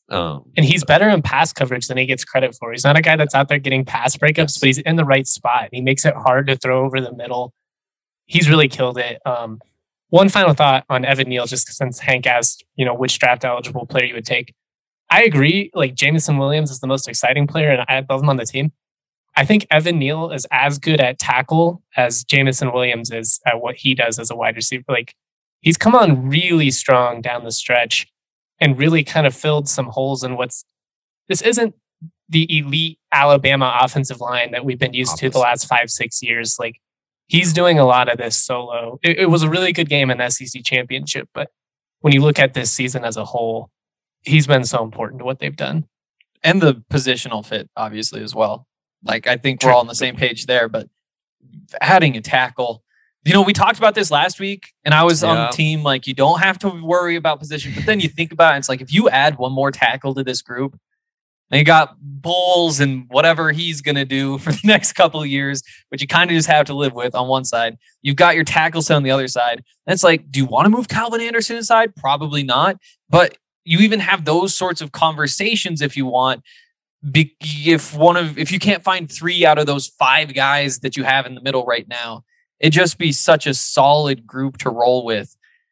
Um, And he's better in pass coverage than he gets credit for. He's not a guy that's out there getting pass breakups, Yes. but he's in the right spot. He makes it hard to throw over the middle. He's really killed it. Um, one final thought on Evan Neal, just since Hank asked, you know, which draft eligible player you would take. I agree. Like Jameson Williams is the most exciting player, and I love him on the team. I think Evan Neal is as good at tackle as Jameson Williams is at what he does as a wide receiver. Like he's come on really strong down the stretch and really kind of filled some holes in what's this isn't the elite Alabama offensive line that we've been used to the last five, six years. Like he's doing a lot of this solo. It, it was a really good game in the S E C championship, but when you look at this season as a whole, he's been so important to what they've done. And the positional fit, obviously, as well. Like, I think we're all on the same page there, but adding a tackle, you know, we talked about this last week and I was Yeah. on the team, like, you don't have to worry about position, but then you think about it, it's like, if you add one more tackle to this group, and you got Bulls and whatever he's going to do for the next couple of years, which you kind of just have to live with on one side. You've got your tackle set on the other side. And it's like, do you want to move Calvin Anderson inside? Probably not. But you even have those sorts of conversations if you want. Be- if one of if you can't find three out of those five guys that you have in the middle right now, it'd just be such a solid group to roll with.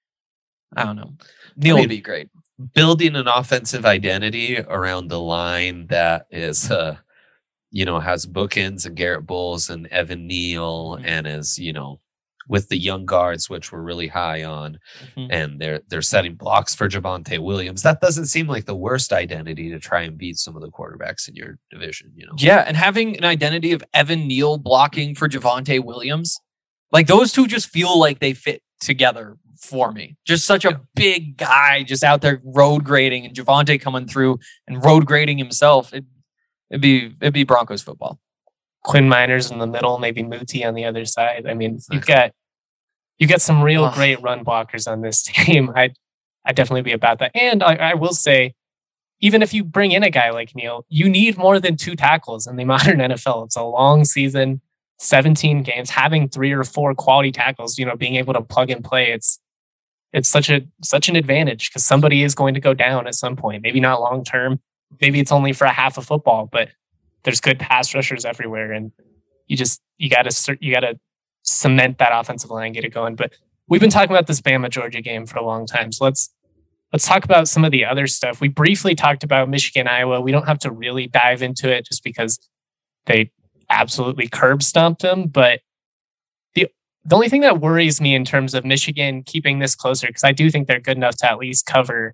I don't know. Neal I mean, would be great. Building an offensive identity around the line that is, uh, you know, has bookends and Garrett Bowles and Evan Neal, Mhm. and is, you know, with the young guards, which we're really high on, Mhm. and they're they're setting blocks for Javonte Williams. That doesn't seem like the worst identity to try and beat some of the quarterbacks in your division. You know, Yeah, and having an identity of Evan Neal blocking for Javonte Williams, like those two just feel like they fit together for me. Just such a big guy just out there road grading, and Javonte coming through and road grading himself. It, it'd be it'd be Broncos football. Quinn Miners in the middle, maybe Muti on the other side. I mean, you've got you got some real Ugh. great run blockers on this team. I'd I'd definitely be about that. And I, I will say, even if you bring in a guy like Neal, you need more than two tackles in the modern N F L. It's a long season, seventeen games. Having three or four quality tackles, you know, being able to plug and play, it's it's such a such an advantage because somebody is going to go down at some point. Maybe not long term. Maybe it's only for a half of football, but there's good pass rushers everywhere, and you just you got to you got to cement that offensive line, get it going. But we've been talking about this Bama Georgia game for a long time, so let's let's talk about some of the other stuff. We briefly talked about Michigan Iowa. We don't have to really dive into it just because they absolutely curb stomped them. But the the only thing that worries me in terms of Michigan keeping this closer, because I do think they're good enough to at least cover,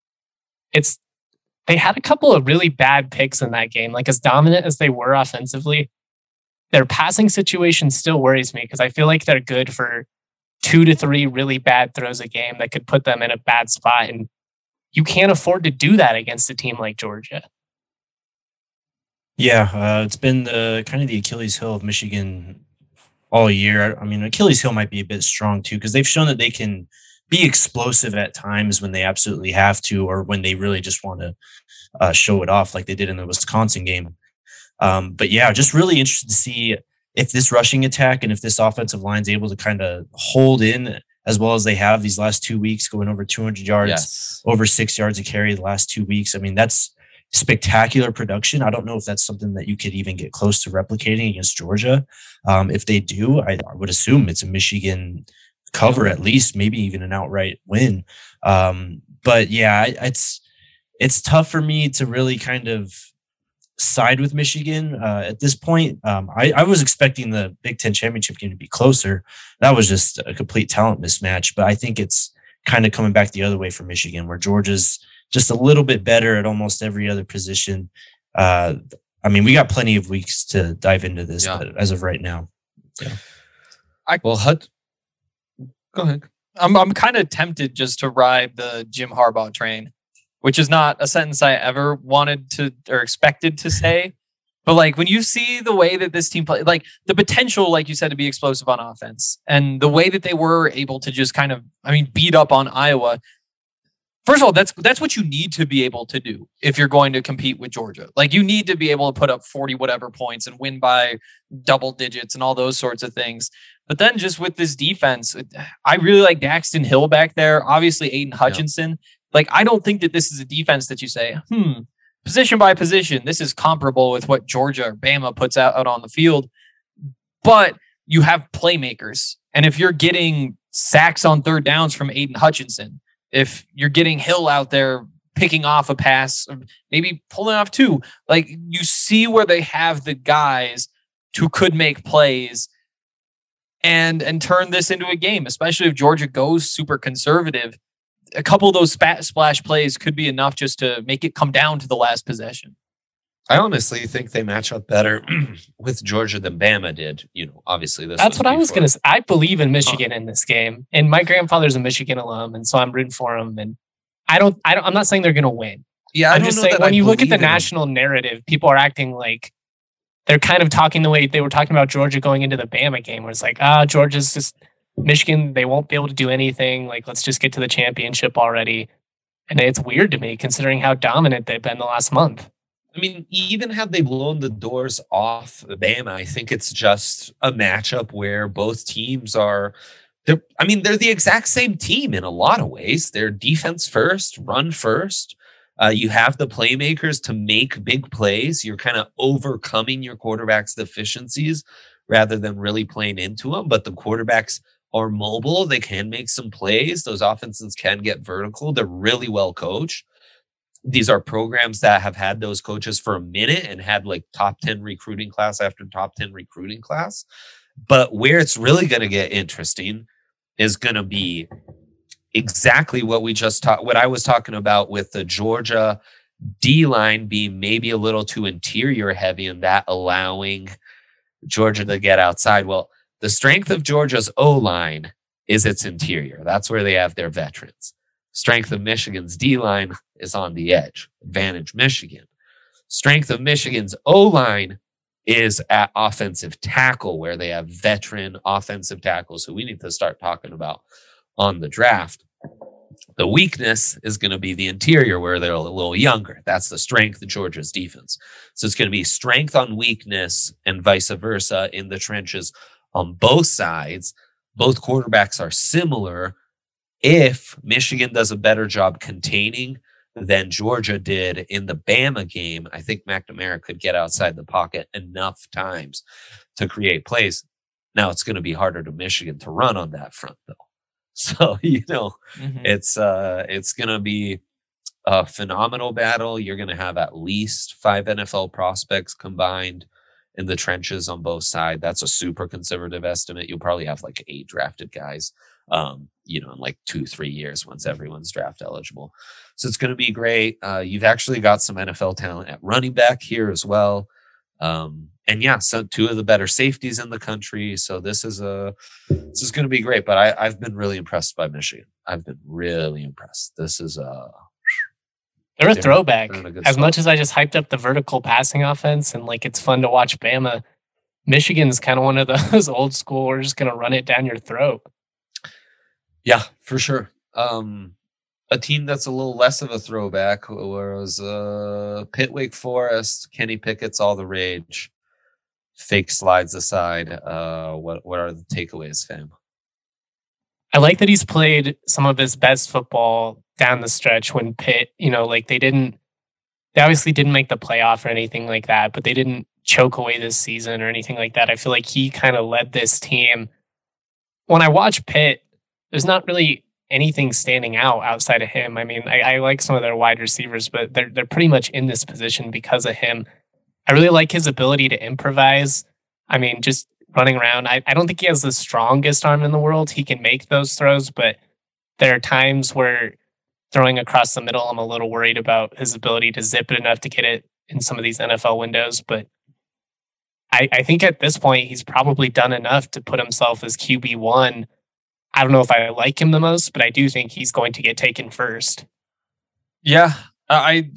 it's they had a couple of really bad picks in that game. Like as dominant as they were offensively, their passing situation still worries me because I feel like they're good for two to three really bad throws a game that could put them in a bad spot. And you can't afford to do that against a team like Georgia. Yeah, uh, it's been the kind of the Achilles heel of Michigan all year. I mean, Achilles heel might be a bit strong too because they've shown that they can be explosive at times when they absolutely have to, or when they really just want to uh, show it off, like they did in the Wisconsin game. Um, but yeah, just really interested to see if this rushing attack and if this offensive line is able to kind of hold in as well as they have these last two weeks, going over two hundred yards, yes. over six yards a carry the last two weeks. I mean, that's spectacular production. I don't know if that's something that you could even get close to replicating against Georgia. Um, if they do, I, I would assume it's a Michigan cover, at least, maybe even an outright win. Um, but yeah, it's it's tough for me to really kind of side with Michigan uh, at this point. Um, I, I was expecting the Big Ten championship game to be closer. That was just a complete talent mismatch. But I think it's kind of coming back the other way for Michigan, where Georgia's just a little bit better at almost every other position. Uh, I mean, we got plenty of weeks to dive into this, Yeah. but as of right now, yeah. I Well, Hud, go ahead. I'm I'm kind of tempted just to ride the Jim Harbaugh train, which is not a sentence I ever wanted to or expected to say. But like when you see the way that this team play, like the potential, like you said, to be explosive on offense, and the way that they were able to just kind of, I mean, beat up on Iowa. First of all, that's that's what you need to be able to do if you're going to compete with Georgia. Like you need to be able to put up forty whatever points and win by double digits and all those sorts of things. But then just with this defense, I really like Daxton Hill back there. Obviously, Aiden Hutchinson. Like, I don't think that this is a defense that you say, hmm, position by position, this is comparable with what Georgia or Bama puts out, out on the field. But you have playmakers. And if you're getting sacks on third downs from Aiden Hutchinson, if you're getting Hill out there picking off a pass, maybe pulling off two, like you see where they have the guys who could make plays and and turn this into a game, especially if Georgia goes super conservative. A couple of those spat, splash plays could be enough just to make it come down to the last possession. I honestly think they match up better with Georgia than Bama did. You know, obviously this. That's was what I was before. going to say. I believe in Michigan in this game, and my grandfather's a Michigan alum, and so I'm rooting for him. And I don't, I don't, I'm not saying they're going to win. Yeah, I I'm don't just know saying that when I you look at the believe in 'em. national narrative, people are acting like they're kind of talking the way they were talking about Georgia going into the Bama game, where it's like, ah, Georgia's just Michigan. They won't be able to do anything. Like, let's just get to the championship already. And it's weird to me considering how dominant they've been the last month. I mean, even had they blown the doors off Bama, I think it's just a matchup where both teams are. They're, I mean, they're the exact same team in a lot of ways. They're defense first, run first. Uh, you have the playmakers to make big plays. You're kind of overcoming your quarterback's deficiencies rather than really playing into them. But the quarterbacks are mobile. They can make some plays. Those offenses can get vertical. They're really well coached. These are programs that have had those coaches for a minute and had like top ten recruiting class after top ten recruiting class. But where it's really going to get interesting is going to be exactly what we just talked, what I was talking about with the Georgia D line being maybe a little too interior heavy and that allowing Georgia to get outside. Well, the strength of Georgia's O line is its interior. That's where they have their veterans. Strength of Michigan's D-line is on the edge. Advantage Michigan. Strength of Michigan's O-line is at offensive tackle, where they have veteran offensive tackles who we need to start talking about on the draft. The weakness is going to be the interior, where they're a little younger. That's the strength of Georgia's defense. So it's going to be strength on weakness and vice versa in the trenches on both sides. Both quarterbacks are similar. If Michigan does a better job containing than Georgia did in the Bama game, I think McNamara could get outside the pocket enough times to create plays. Now it's going to be harder to Michigan to run on that front, though. So, you know, mm-hmm. it's uh, it's going to be a phenomenal battle. You're going to have at least five N F L prospects combined in the trenches on both sides. That's a super conservative estimate. You'll probably have like eight drafted guys. Um, you know, in like two, three years once everyone's draft eligible. So it's going to be great. Uh, you've actually got some N F L talent at running back here as well. Um, and yeah, so two of the better safeties in the country. So this is a, this is going to be great, but I, I've been really impressed by Michigan. I've been really impressed. This is a, they're a throwback. They're as spot. much as I just hyped up the vertical passing offense and like, it's fun to watch Bama, Michigan's kind of one of those old school, we're just going to run it down your throat. Yeah, for sure. Um, a team that's a little less of a throwback was uh, Pitt Wake Forest. Kenny Pickett's all the rage. Fake slides aside. Uh, what what are the takeaways, fam? I like that he's played some of his best football down the stretch when Pitt, you know, like they didn't, they obviously didn't make the playoff or anything like that, but they didn't choke away this season or anything like that. I feel like he kind of led this team. When I watch Pitt, there's not really anything standing out outside of him. I mean, I, I like some of their wide receivers, but they're they're pretty much in this position because of him. I really like his ability to improvise. I mean, just running around. I, I don't think he has the strongest arm in the world. He can make those throws, but there are times where throwing across the middle, I'm a little worried about his ability to zip it enough to get it in some of these N F L windows. But I, I think at this point, he's probably done enough to put himself as Q B one. I don't know if I like him the most, but I do think he's going to get taken first. Yeah, I,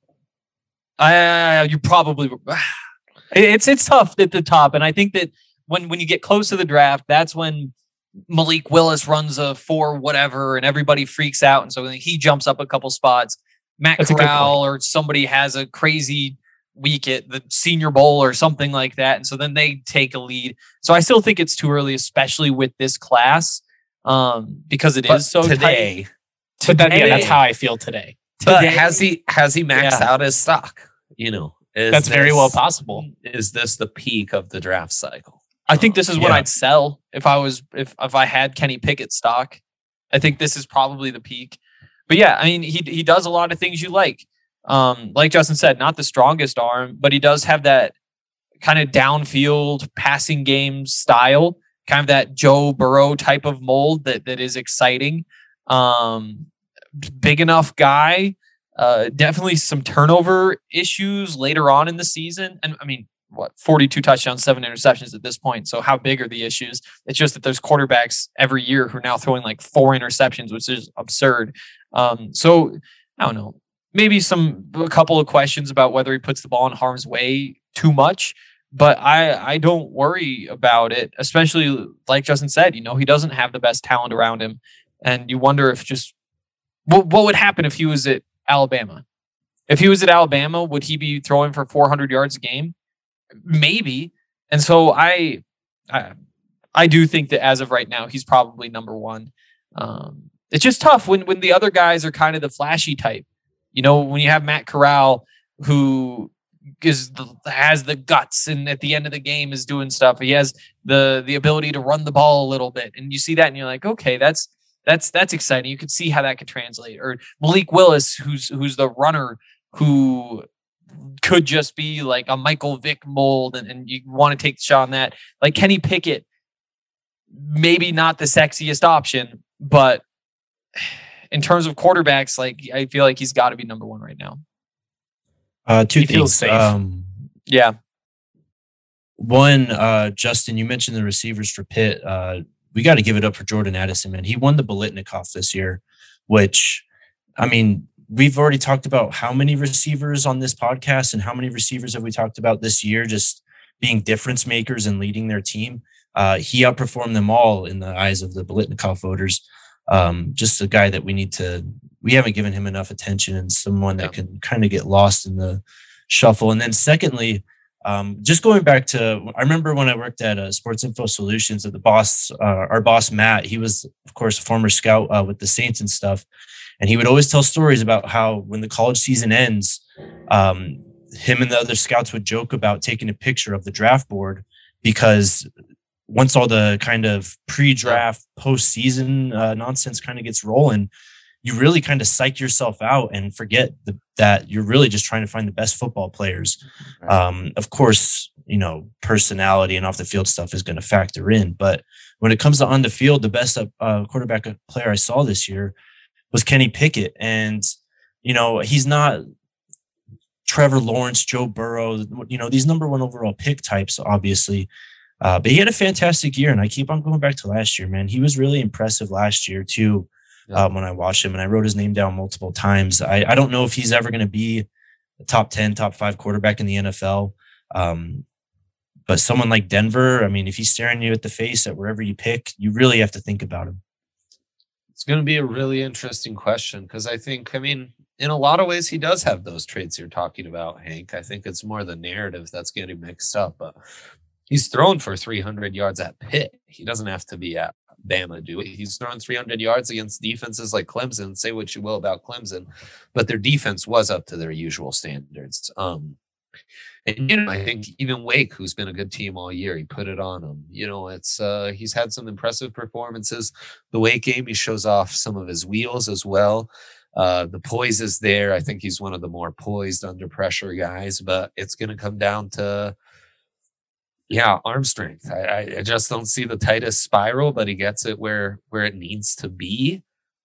I, you probably, it's it's tough at the top, and I think that when when you get close to the draft, that's when Malik Willis runs a four whatever, and everybody freaks out, and so he jumps up a couple spots. Matt That's Corral or somebody has a crazy week at the Senior Bowl or something like that, and so then they take a lead. So I still think it's too early, especially with this class. Um, because it but is so today, tight. But that, yeah, Today- that's how I feel today. But Today- has he has he maxed Yeah. out his stock? You know, is That's very this- well possible. Is this the peak of the draft cycle? I think this is when Yeah. I'd sell if I was if if I had Kenny Pickett stock. I think this is probably the peak. But yeah, I mean he he does a lot of things you like. Um, like Justin said, not the strongest arm, but he does have that kind of downfield passing game style, kind of that Joe Burrow type of mold that that is exciting. Um, big enough guy. Uh, definitely some turnover issues later on in the season. And I mean, what, forty-two touchdowns, seven interceptions at this point. So how big are the issues? It's just that there's quarterbacks every year who are now throwing like four interceptions, which is absurd. Um, so I don't know, maybe some, a couple of questions about whether he puts the ball in harm's way too much, but I, I don't worry about it, especially like Justin said, you know, he doesn't have the best talent around him. And you wonder if just, what, what would happen if he was at Alabama? If he was at Alabama, would he be throwing for four hundred yards a game? Maybe. And so I, I, I do think that as of right now, he's probably number one. Um, it's just tough when when the other guys are kind of the flashy type. You know, when you have Matt Corral, who is the, has the guts, and at the end of the game is doing stuff. He has the the ability to run the ball a little bit, and you see that, and you're like, okay, that's. That's that's exciting. You could see how that could translate. Or Malik Willis, who's who's the runner who could just be like a Michael Vick mold, and, and you want to take the shot on that. Like Kenny Pickett, maybe not the sexiest option, but in terms of quarterbacks, like I feel like he's got to be number one right now. Uh, two He feels things. safe. Um, Yeah. One, uh, Justin, you mentioned the receivers for Pitt. Uh, we got to give it up for Jordan Addison, man. He won the Biletnikoff this year, which, I mean, we've already talked about how many receivers on this podcast and how many receivers have we talked about this year just being difference makers and leading their team. Uh, he outperformed them all in the eyes of the Biletnikoff voters. Um, just a guy that we need to, we haven't given him enough attention, and someone that can kind of get lost in the shuffle. And then secondly, Um, just going back to, I remember when I worked at uh, Sports Info Solutions, that the boss, uh, our boss, Matt, he was, of course, a former scout uh, with the Saints and stuff. And he would always tell stories about how when the college season ends, um, him and the other scouts would joke about taking a picture of the draft board, because once all the kind of pre-draft, postseason uh, nonsense kind of gets rolling, you really kind of psych yourself out and forget the, that you're really just trying to find the best football players. Um, of course, you know, personality and off the field stuff is going to factor in, but when it comes to on the field, the best uh, quarterback player I saw this year was Kenny Pickett. And, you know, he's not Trevor Lawrence, Joe Burrow, you know, these number one overall pick types, obviously. Uh, but he had a fantastic year, and I keep on going back to last year, man. He was really impressive last year too. Um, when I watched him, and I wrote his name down multiple times. I, I don't know if he's ever going to be a top ten, top five quarterback in the N F L. Um, but someone like Denver, I mean, if he's staring you at the face at wherever you pick, you really have to think about him. It's going to be a really interesting question, because I think, I mean, in a lot of ways, he does have those traits you're talking about, Hank. I think it's more the narrative that's getting mixed up. But he's thrown for three hundred yards at Pitt. He doesn't have to be at Bama do it. He's thrown three hundred yards against defenses like Clemson. Say what you will about Clemson, but their defense was up to their usual standards. Um, and you know, I think even Wake, who's been a good team all year, he put it on them. You know, it's uh, he's had some impressive performances. The Wake game, he shows off some of his wheels as well. Uh, the poise is there. I think he's one of the more poised under pressure guys, but it's going to come down to, yeah, arm strength. I, I just don't see the tightest spiral, but he gets it where where it needs to be.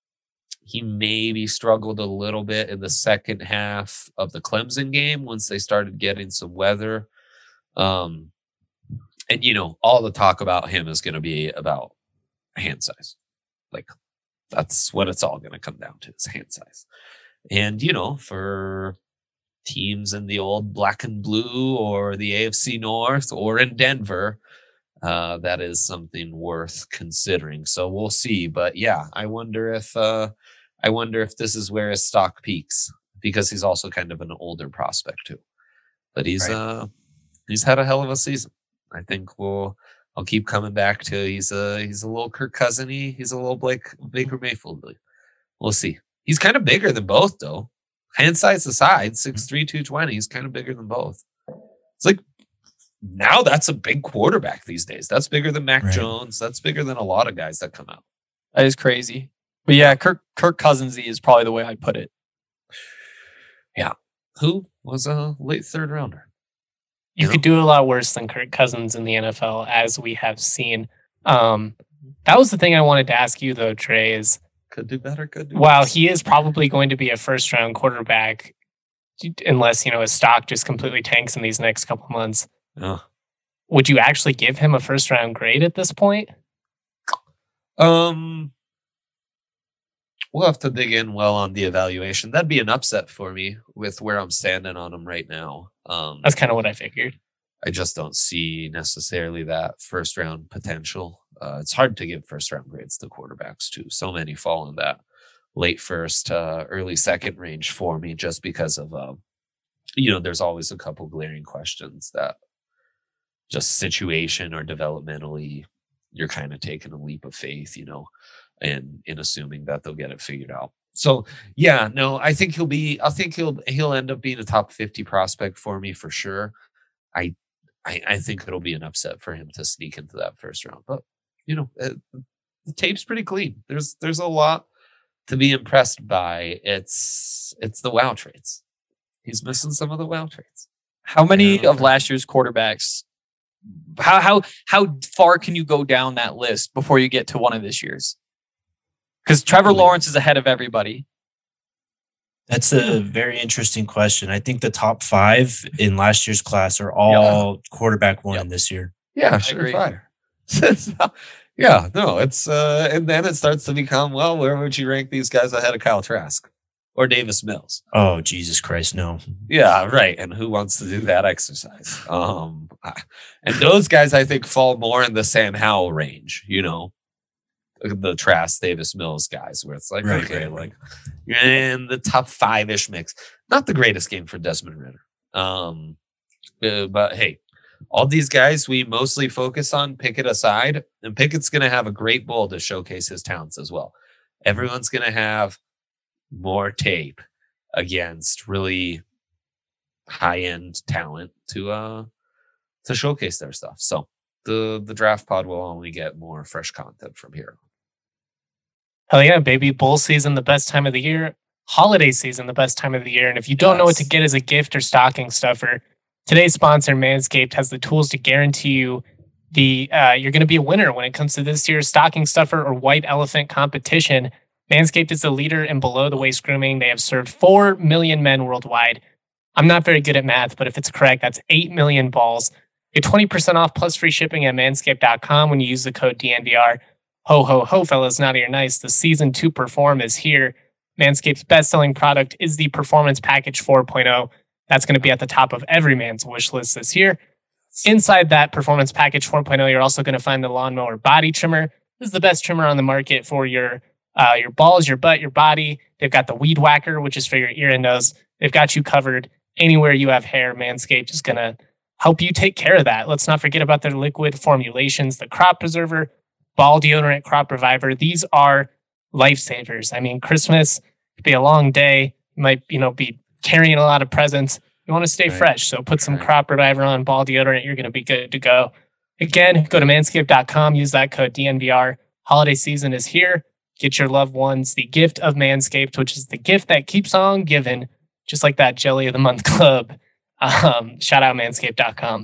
He maybe struggled a little bit in the second half of the Clemson game once they started getting some weather. Um, and, you know, all the talk about him is going to be about hand size. Like, that's what it's all going to come down to, is hand size. And, you know, for teams in the old black and blue or the A F C North or in Denver, uh, that is something worth considering. So we'll see. But yeah, I wonder if uh, I wonder if this is where his stock peaks, because he's also kind of an older prospect too. But he's right. uh, he's had a hell of a season. I think we'll I'll keep coming back to he's a he's a little Kirk Cousiny, he's a little Blake Baker Mayfield. we'll see. He's kind of bigger than both, though. Hand size aside, six three, two twenty. He's kind of bigger than both. It's like, now that's a big quarterback these days. That's bigger than Mac Right. Jones. That's bigger than a lot of guys that come out. That is crazy. But yeah, Kirk Kirk Cousinsy is probably the way I'd put it. Who was a late third rounder? You Yeah. could do a lot worse than Kirk Cousins in the N F L, as we have seen. Um, that was the thing I wanted to ask you, though, Trey, is Could do better, could do while worse. he is probably going to be a first round quarterback, unless, you know, his stock just completely tanks in these next couple months, Oh. would you actually give him a first round grade at this point? Um, we'll have to dig in well on the evaluation. That'd be an upset for me with where I'm standing on him right now. Um, That's kind of what I figured. I just don't see necessarily that first round potential. Uh, it's hard to give first round grades to quarterbacks too. So many fall in that late first, uh, early second range for me, just because of, uh, you know, there's always a couple glaring questions that just situation or developmentally, you're kind of taking a leap of faith, you know, and in assuming that they'll get it figured out. So yeah, no, I think he'll be. I think he'll he'll end up being a top fifty prospect for me for sure. I I, I think it'll be an upset for him to sneak into that first round, but you know, uh, the tape's pretty clean. There's there's a lot to be impressed by. It's it's the wow traits. He's missing some of the wow traits. How many Yeah. of last year's quarterbacks? How how how far can you go down that list before you get to one of this year's? Because Trevor Lawrence is ahead of everybody. That's a very interesting question. I think the top five in last year's class are all quarterback one Yep. this year. Yeah, agree. surefire. Yeah, no, it's uh, and then it starts to become, well, where would you rank these guys ahead of Kyle Trask or Davis Mills? Oh, Jesus Christ, no. Yeah, right. And who wants to do that exercise? Um, I- and those guys, I think, fall more in the Sam Howell range. You know, the Trask, Davis Mills guys, where it's like, Right, okay, right, like you're in the top five ish mix. Not the greatest game for Desmond Ritter. Um, uh, but hey, all these guys we mostly focus on Pickett aside, and Pickett's going to have a great bowl to showcase his talents as well. Everyone's going to have more tape against really high end talent to uh to showcase their stuff. So the the draft pod will only get more fresh content from here. Hell yeah, baby. Bowl season, the best time of the year. Holiday season, the best time of the year. And if you don't know what to Yes. get as a gift or stocking stuffer, today's sponsor, Manscaped, has the tools to guarantee you the uh, you're going to be a winner when it comes to this year's stocking stuffer or white elephant competition. Manscaped is the leader in below the waist grooming. They have served four million men worldwide. I'm not very good at math, but if it's correct, that's eight million balls. Get twenty percent off plus free shipping at manscaped dot com when you use the code D N V R. Ho, ho, ho, fellas, naughty or nice. The season to perform is here. Manscaped's best-selling product is the Performance Package four point oh. That's going to be at the top of every man's wish list this year. Inside that Performance Package four point oh, you're also going to find the Lawnmower Body Trimmer. This is the best trimmer on the market for your uh, your balls, your butt, your body. They've got the Weed Whacker, which is for your ear and nose. They've got you covered anywhere you have hair. Manscaped is going to help you take care of that. Let's not forget about their liquid formulations, the Crop Preserver, Ball Deodorant, Crop Reviver. These are lifesavers. I mean, Christmas could be a long day. You might, you know, be carrying a lot of presents. You want to stay Right. fresh. So put some Right. Crop Reviver on, Ball Deodorant. You're going to be good to go. Again, go to manscaped dot com. Use that code D N V R. Holiday season is here. Get your loved ones the gift of Manscaped, which is the gift that keeps on giving, just like that Jelly of the Month Club. Um, shout out manscaped dot com.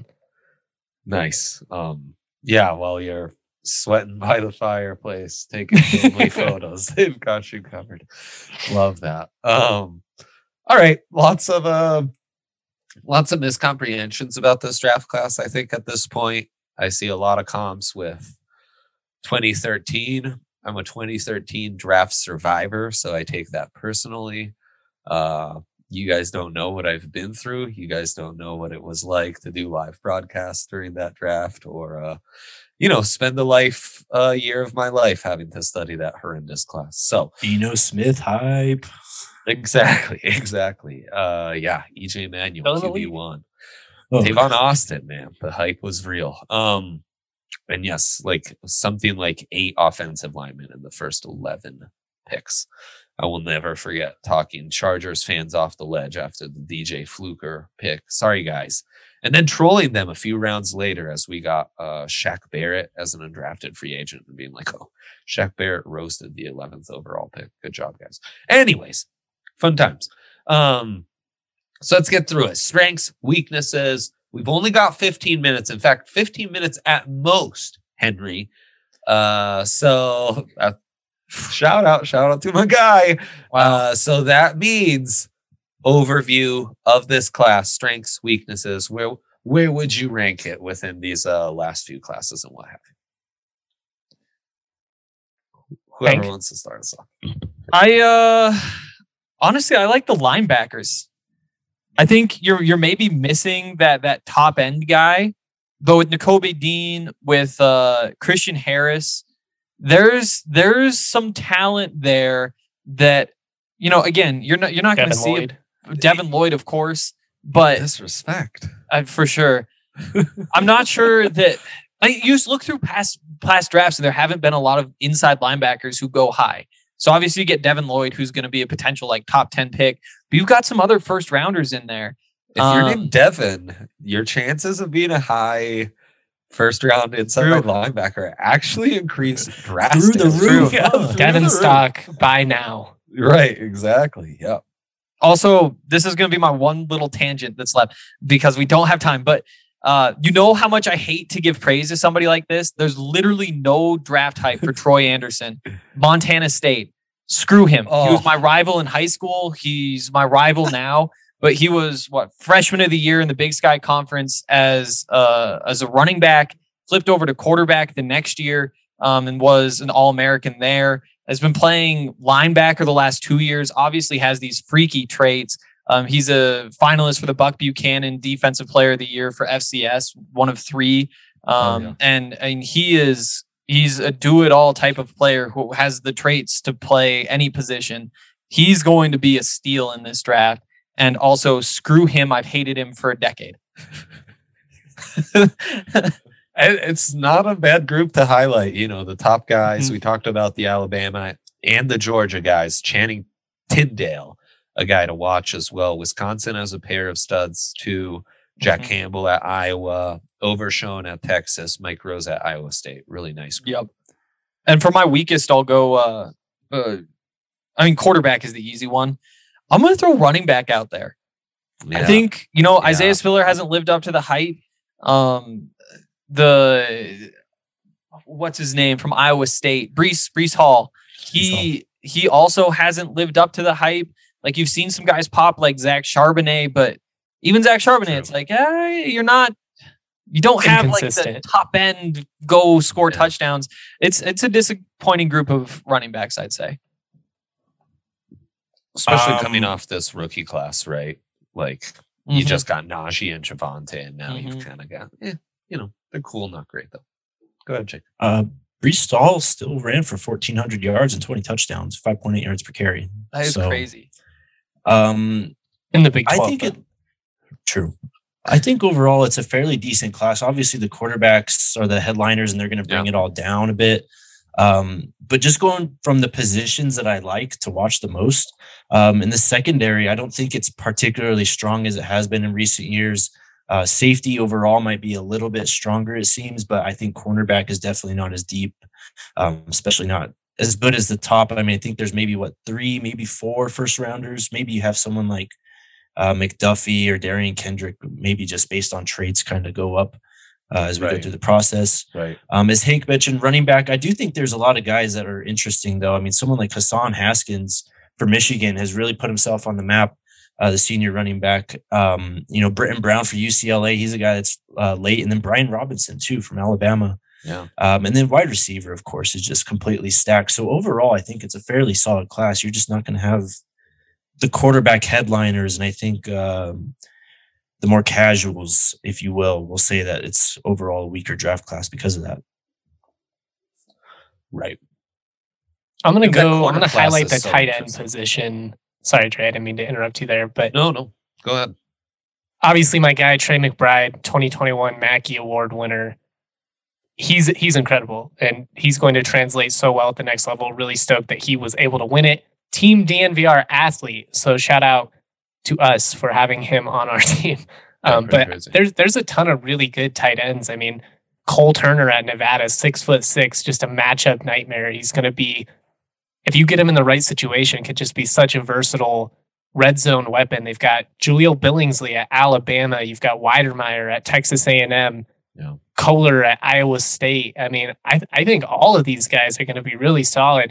Nice. Um, yeah, while you're sweating by the fireplace, taking family photos, they've got you covered. Love that. Um, all right, lots of uh, lots of miscomprehensions about this draft class. I think at this point, I see a lot of comps with twenty thirteen. I'm a twenty thirteen draft survivor, so I take that personally. Uh, you guys don't know what I've been through. You guys don't know what it was like to do live broadcasts during that draft, or uh, you know, spend a life, a uh, year of my life having to study that horrendous class. So Dino Smith hype. exactly, exactly. Uh, yeah, E J Manuel, Still in the Q B league. one. Oh, Tavon Austin, man, the hype was real. Um, and yes, like something like eight offensive linemen in the first eleven picks. I will never forget talking Chargers fans off the ledge after the D J Fluker pick. Sorry, guys. And then trolling them a few rounds later as we got uh, Shaq Barrett as an undrafted free agent and being like, oh, Shaq Barrett roasted the eleventh overall pick. Good job, guys. Anyways, fun times. Um, so let's get through it. Strengths, weaknesses. We've only got fifteen minutes. In fact, fifteen minutes at most, Henry. Uh, so uh, shout out, shout out to my guy. Wow. Uh, so that means overview of this class, strengths, weaknesses. Where where would you rank it within these uh, last few classes and what have you? Whoever Hank. wants to start us off. I uh honestly I like the linebackers. I think you're you're maybe missing that that top end guy, but with Nakobe Dean, with uh, Christian Harris, there's there's some talent there that, you know, again, you're not you're not going to see Lloyd. it. Devin Lloyd, of course, but Disrespect. uh, for sure. I'm not sure that like you just look through past past drafts and there haven't been a lot of inside linebackers who go high. So obviously you get Devin Lloyd, who's going to be a potential like top ten pick, but you've got some other first rounders in there. If um, you're named Devin, your chances of being a high first round inside True. linebacker actually increase drastically. Through the roof. Yeah, huh? Devin the roof. Stock by now. Right, exactly. Yep. Also, this is going to be my one little tangent that's left because we don't have time. But uh, you know how much I hate to give praise to somebody like this? There's literally no draft hype for Troy Anderson. Montana State. Screw him. Oh. He was my rival in high school. He's my rival now. But he was, what, freshman of the year in the Big Sky Conference as, uh, as a running back, flipped over to quarterback the next year um, and was an All-American there. Has been playing linebacker the last two years, obviously has these freaky traits. Um, he's a finalist for the Buck Buchanan Defensive Player of the Year for F C S, one of three. Um, Oh, yeah. and, and he is, he's a do-it-all type of player who has the traits to play any position. He's going to be a steal in this draft. And also, screw him. I've hated him for a decade. It's not a bad group to highlight. You know, the top guys. Mm-hmm. We talked about the Alabama and the Georgia guys. Channing Tyndale, a guy to watch as well. Wisconsin has a pair of studs too. Jack Mhm. Campbell at Iowa, Overshown at Texas, Mike Rose at Iowa State. Really nice group. Yep. And for my weakest, I'll go. Uh, uh, I mean, quarterback is the easy one. I'm going to throw running back out there. I Yeah. think, you know, Yeah. Isaiah Spiller hasn't lived up to the hype. Um, the what's his name from Iowa State, Brees Brees Hall. He he also hasn't lived up to the hype. Like you've seen some guys pop like Zach Charbonnet, but even Zach Charbonnet, True. it's like, eh, you're not. You don't have like the Inconsistent. top end go score Yeah. touchdowns. It's it's a disappointing group of running backs, I'd say. Especially Um, coming off this rookie class, right? Like you Mhm. just got Najee and Javante, and now Mhm. you've kind of got, eh, you know, they're cool, not great though. Go ahead, Jake. Uh, Brees Hall still ran for fourteen hundred yards and twenty touchdowns, five point eight yards per carry. That is So, crazy. Um, In the Big I twelve. think it. True. I think overall it's a fairly decent class. Obviously, the quarterbacks are the headliners, and they're going to bring Yeah. it all down a bit. Um, but just going from the positions that I like to watch the most, um, in the secondary, I don't think it's particularly strong as it has been in recent years. Uh, safety overall might be a little bit stronger, it seems, but I think cornerback is definitely not as deep, um, especially not as good as the top. I mean, I think there's maybe what three, maybe four first rounders. Maybe you have someone like uh, McDuffie or Darian Kendrick, maybe just based on traits, kind of go up uh, as we go Right. through the process. Right. Um, as Hank mentioned, running back, I do think there's a lot of guys that are interesting, though. I mean, someone like Hassan Haskins for Michigan has really put himself on the map. Uh, the senior running back, um, you know, Britton Brown for U C L A. He's a guy that's uh, late, and then Brian Robinson too from Alabama. Yeah. Um, and then wide receiver, of course, is just completely stacked. So overall, I think it's a fairly solid class. You're just not going to have the quarterback headliners, and I think um, the more casuals, if you will, will say that it's overall a weaker draft class because of that. Right. I'm gonna And that go. I'm corner gonna class highlight is the so tight end interesting. position. Sorry, Trey, I didn't mean to interrupt you there, but No, no. Go ahead. obviously my guy Trey McBride, twenty twenty-one Mackey Award winner. He's he's incredible, and he's going to translate so well at the next level. Really stoked that he was able to win it. Team D N V R athlete. So shout out to us for having him on our team. Um, Yeah, pretty but crazy. there's there's a ton of really good tight ends. I mean, Cole Turner at Nevada, six foot six, just a matchup nightmare. He's going to be, if you get him in the right situation, could just be such a versatile red zone weapon. They've got Julio Billingsley at Alabama. You've got Weidermeyer at Texas A and M. Yeah. Kohler at Iowa State. I mean, I I think all of these guys are going to be really solid,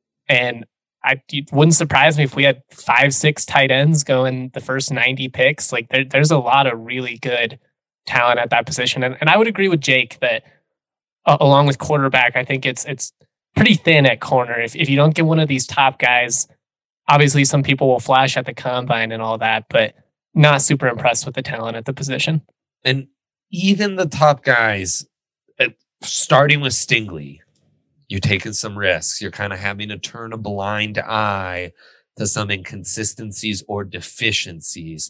and I it wouldn't surprise me if we had five, six tight ends going the first ninety picks. Like there, there's a lot of really good talent at that position, and and I would agree with Jake that uh, along with quarterback, I think it's it's pretty thin at corner. If if you don't get one of these top guys, obviously some people will flash at the combine and all that, but not super impressed with the talent at the position. And even the top guys, uh, starting with Stingley, you're taking some risks. You're kind of having to turn a blind eye to some inconsistencies or deficiencies.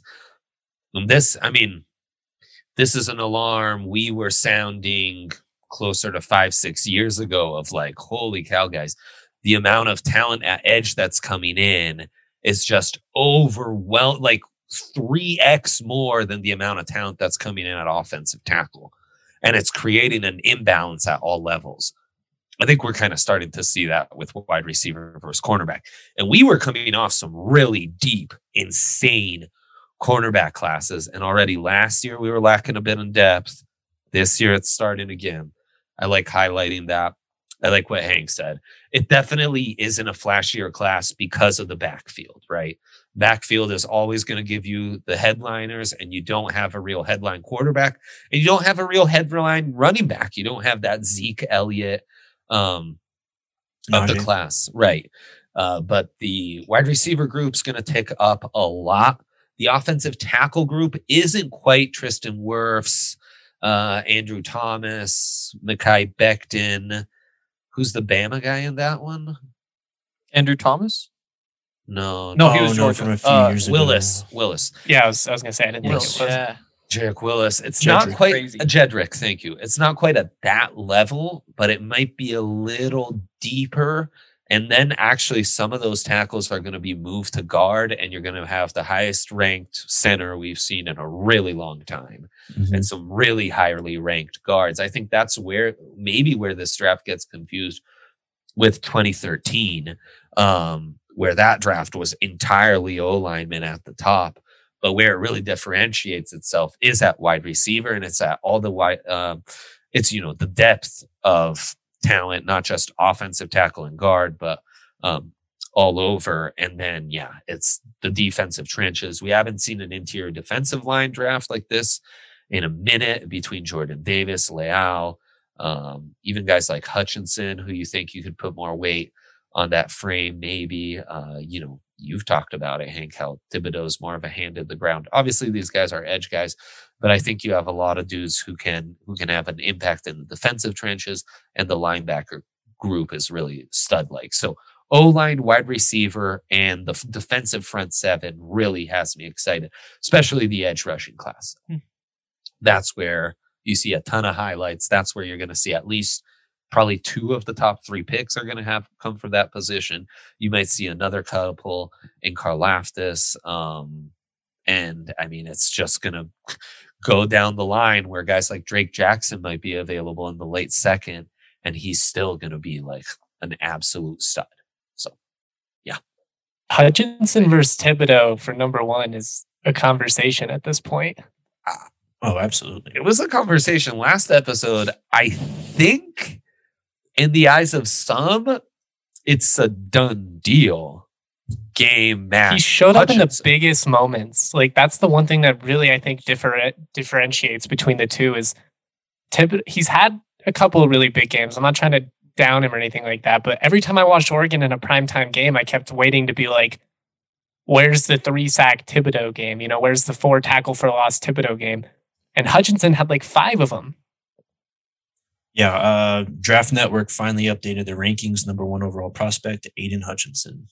And this, I mean, this is an alarm we were sounding closer to five, six years ago of like, holy cow, guys, the amount of talent at edge that's coming in is just overwhelming, like three x more than the amount of talent that's coming in at offensive tackle. And it's creating an imbalance at all levels. I think we're kind of starting to see that with wide receiver versus cornerback. And we were coming off some really deep, insane cornerback classes. And already last year, we were lacking a bit in depth. This year, it's starting again. I like highlighting that. I like what Hank said. It definitely isn't a flashier class because of the backfield, right? Backfield is always going to give you the headliners, and you don't have a real headline quarterback, and you don't have a real headline running back. You don't have that Zeke Elliott um, of the Najee. class, right? Uh, but the wide receiver group's going to tick up a lot. The offensive tackle group isn't quite Tristan Wirfs, uh, Andrew Thomas, Mekhi Becton. Who's the Bama guy in that one? Andrew Thomas? No, No, Oh, he was no, Georgia. from a few Uh, years ago. Willis. Willis. Yeah, I was I was gonna say I didn't Yes. think it was. Yeah. Jedrick Willis. It's Jedrick. not quite Crazy. a Jedrick. Thank you. It's not quite at that level, but it might be a little deeper. And then actually some of those tackles are going to be moved to guard, and you're going to have the highest ranked center we've seen in a really long time, Mhm. and some really highly ranked guards. I think that's where maybe where this draft gets confused with twenty thirteen, um, where that draft was entirely O linemen at the top. But where it really differentiates itself is at wide receiver, and it's at all the wide. Um, it's you know the depth of talent, not just offensive tackle and guard, but um, all over. And then yeah, it's the defensive trenches. We haven't seen an interior defensive line draft like this in a minute between Jordan Davis, Leal, um, even guys like Hutchinson, who you think you could put more weight on that frame, maybe. Uh, you know, you've talked about it, Hank, how Thibodeau's more of a hand in the ground. Obviously, these guys are edge guys, but I think you have a lot of dudes who can who can have an impact in the defensive trenches, and the linebacker group is really stud-like. So O-line, wide receiver, and the f- defensive front seven really has me excited, especially the edge rushing class. Hmm. That's where you see a ton of highlights. That's where you're going to see at least probably two of the top three picks are going to have come from that position. You might see another couple in Karlaftis. Um, and I mean, it's just going to go down the line where guys like Drake Jackson might be available in the late second, and he's still going to be like an absolute stud. So, yeah. Hutchinson versus Thibodeau for number one is a conversation at this point. Oh, absolutely. It was a conversation last episode. I think in the eyes of some, it's a done deal. Game match. He showed up in the Hutchinson. biggest moments. Like that's the one thing that really I think differ- differentiates between the two is Thibodeau. He's had a couple of really big games. I'm not trying to down him or anything like that, but every time I watched Oregon in a primetime game, I kept waiting to be like, where's the three sack Thibodeau game? You know, where's the four tackle for loss Thibodeau game? And Hutchinson had like five of them. Yeah, uh, Draft Network finally updated their rankings. Number one overall prospect, Aiden Hutchinson.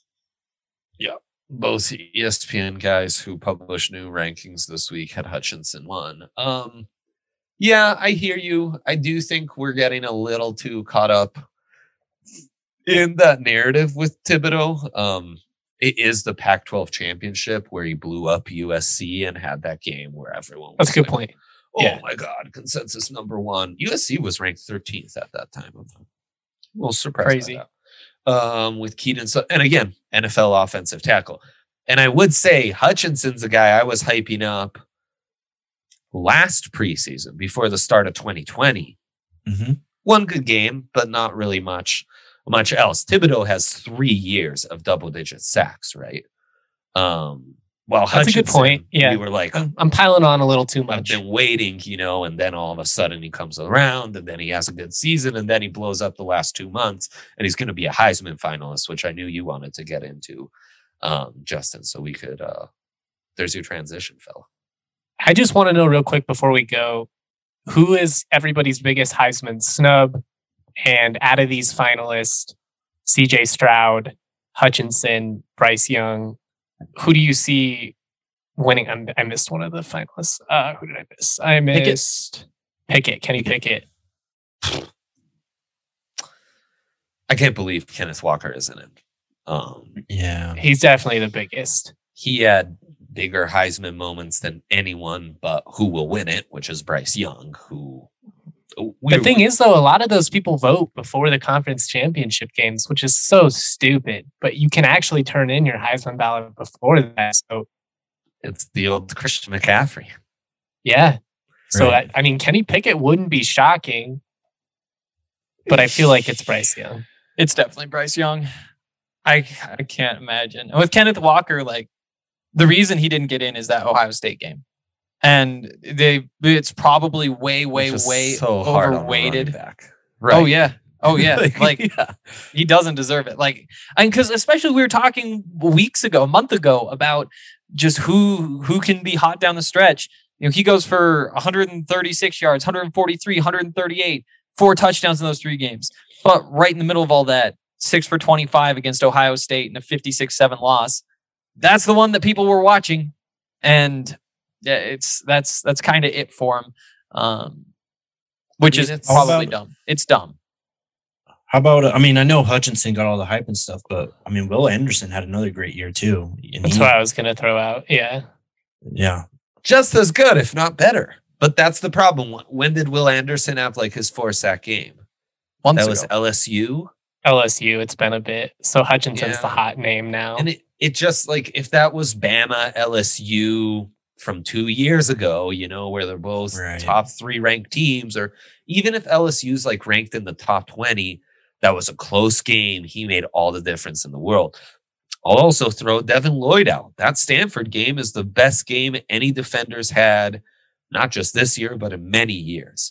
Both E S P N guys who published new rankings this week had Hutchinson one. Um, yeah, I hear you. I do think we're getting a little too caught up in that narrative with Thibodeau. Um, it is the Pac twelve championship where he blew up U S C and had that game where everyone was That's a good like, point. oh Yeah. my God, consensus number one. U S C was ranked thirteenth at that time. I'm a little surprised. Crazy. By that. Um, with Keaton, so and again, N F L offensive tackle. And I would say Hutchinson's a guy I was hyping up last preseason before the start of twenty twenty. Mm-hmm. One good game, but not really much much else. Thibodeau has three years of double digit sacks, right? Um, well, That's a good point. Yeah. We were like, I'm, I'm piling on a little too I've much. been waiting, you know, and then all of a sudden he comes around and then he has a good season and then he blows up the last two months and he's going to be a Heisman finalist, which I knew you wanted to get into, um, Justin. So we could, uh, there's your transition, fella. I just want to know real quick before we go, who is everybody's biggest Heisman snub? And out of these finalists, C J Stroud, Hutchinson, Bryce Young, who do you see winning? I'm, I missed one of the finalists. Uh, who did I miss? I missed Pickett. Kenny Pickett. I can't believe Kenneth Walker isn't in. Um, Yeah. He's definitely the biggest. he had bigger Heisman moments than anyone, but who will win it, which is Bryce Young, who... The thing is, though, a lot of those people vote before the conference championship games, which is so stupid. But you can actually turn in your Heisman ballot before that. So, it's the old Christian McCaffrey. yeah. So, Right. I, I mean, Kenny Pickett wouldn't be shocking, but I feel like it's Bryce Young. It's definitely Bryce Young. I I can't imagine. And with Kenneth Walker, like the reason he didn't get in is that Ohio State game. And they it's probably way, way, Which is way so hard on a running overweighted. back. Oh yeah. Oh yeah. Like, like yeah. he doesn't deserve it. Like, and because especially we were talking weeks ago, a month ago, about just who who can be hot down the stretch. You know, he goes for one hundred thirty-six yards, one hundred forty-three, one hundred thirty-eight, four touchdowns in those three games. But right in the middle of all that, six for twenty-five against Ohio State in a fifty-six seven loss. That's the one that people were watching, and yeah, it's that's that's kind of it for him, um, which I mean, is it's- probably How about- dumb. It's dumb. How about, I mean, I know Hutchinson got all the hype and stuff, but I mean, Will Anderson had another great year too. And That's he- what I was going to throw out. Yeah. yeah. Just as good, if not better. But that's the problem. When did Will Anderson have like his four sack game? Once That ago. was L S U. L S U, it's been a bit. So Hutchinson's Yeah. the hot name now. And it, it just like, if that was Bama, L S U from two years ago, you know, where they're both Right. top three ranked teams, or even if L S U's like ranked in the top twenty, that was a close game. He made all the difference in the world. I'll also throw Devin Lloyd out. That Stanford game is the best game any defenders had, not just this year, but in many years.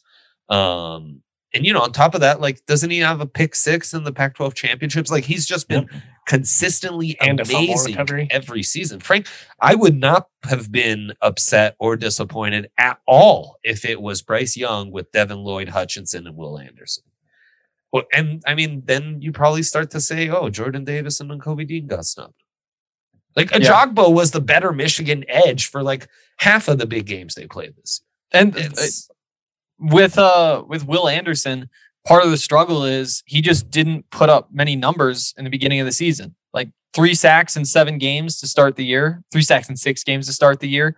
Um, and, you know, on top of that, like, doesn't he have a pick six in the Pac twelve championships? Like, he's just been Yep. consistently And a fumble amazing recovery. every season. Frank, I would not have been upset or disappointed at all if it was Bryce Young with Devin Lloyd, Hutchinson, and Will Anderson. Well, and I mean, then you probably start to say, oh, Jordan Davis and Kobe Dean got snubbed. Like, Ajagbo was the better Michigan edge for like half of the big games they played this and year. uh, It's, with uh with Will Anderson, part of the struggle is he just didn't put up many numbers in the beginning of the season. Like three sacks in seven games to start the year, three sacks in six games to start the year.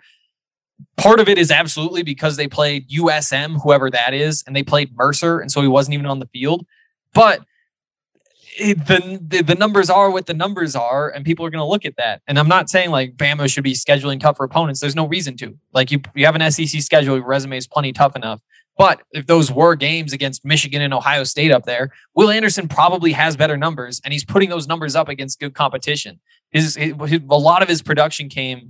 Part of it is absolutely because they played U S M, whoever that is, and they played Mercer, and so he wasn't even on the field. But it, the, the the numbers are what the numbers are, and people are going to look at that. And I'm not saying like Bama should be scheduling tougher opponents. There's no reason to. Like you, you have an S E C schedule, your resume is plenty tough enough. But if those were games against Michigan and Ohio State up there, Will Anderson probably has better numbers, and he's putting those numbers up against good competition. His, his, his a lot of his production came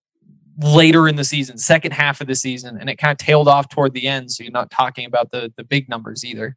later in the season, second half of the season, and it kind of tailed off toward the end. So you're not talking about the the big numbers either.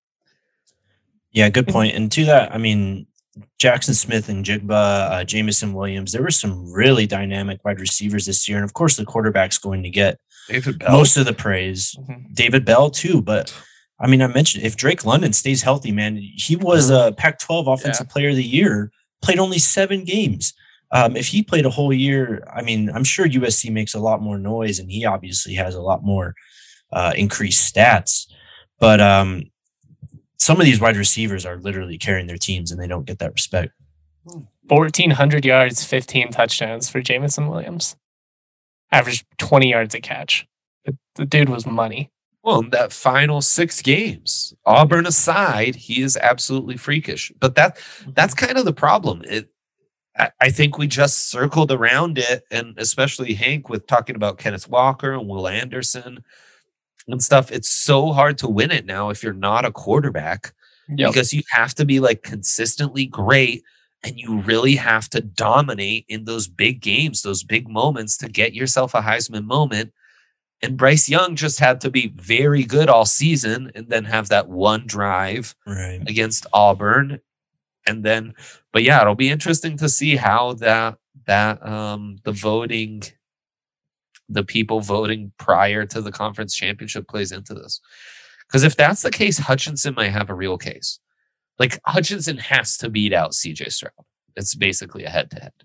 Yeah, good point. And to that, I mean, Jackson Smith and Jigba, uh, Jameson Williams, there were some really dynamic wide receivers this year. And of course, the quarterback's going to get David Bell. most of the praise. Mhm. David Bell, too. But I mean, I mentioned if Drake London stays healthy, man, he was a Pac twelve Offensive Player of the Year, played only seven games. Um, if he played a whole year, I mean, I'm sure U S C makes a lot more noise, and he obviously has a lot more uh, increased stats. But um, some of these wide receivers are literally carrying their teams, and they don't get that respect. fourteen hundred yards, fifteen touchdowns for Jamison Williams. Averaged twenty yards a catch. The, the dude was money. Well, in that final six games, Auburn aside, he is absolutely freakish. But that that's kind of the problem. It, I, I think we just circled around it, and especially Hank with talking about Kenneth Walker and Will Anderson and stuff. It's so hard to win it now if you're not a quarterback, yep. because you have to be like consistently great, and you really have to dominate in those big games, those big moments to get yourself a Heisman moment. And Bryce Young just had to be very good all season and then have that one drive right. against Auburn. And then, but yeah, it'll be interesting to see how that, that, um, the voting, the people voting prior to the conference championship plays into this. Because if that's the case, Hutchinson might have a real case. Like Hutchinson has to beat out C J Stroud. It's basically a head to head.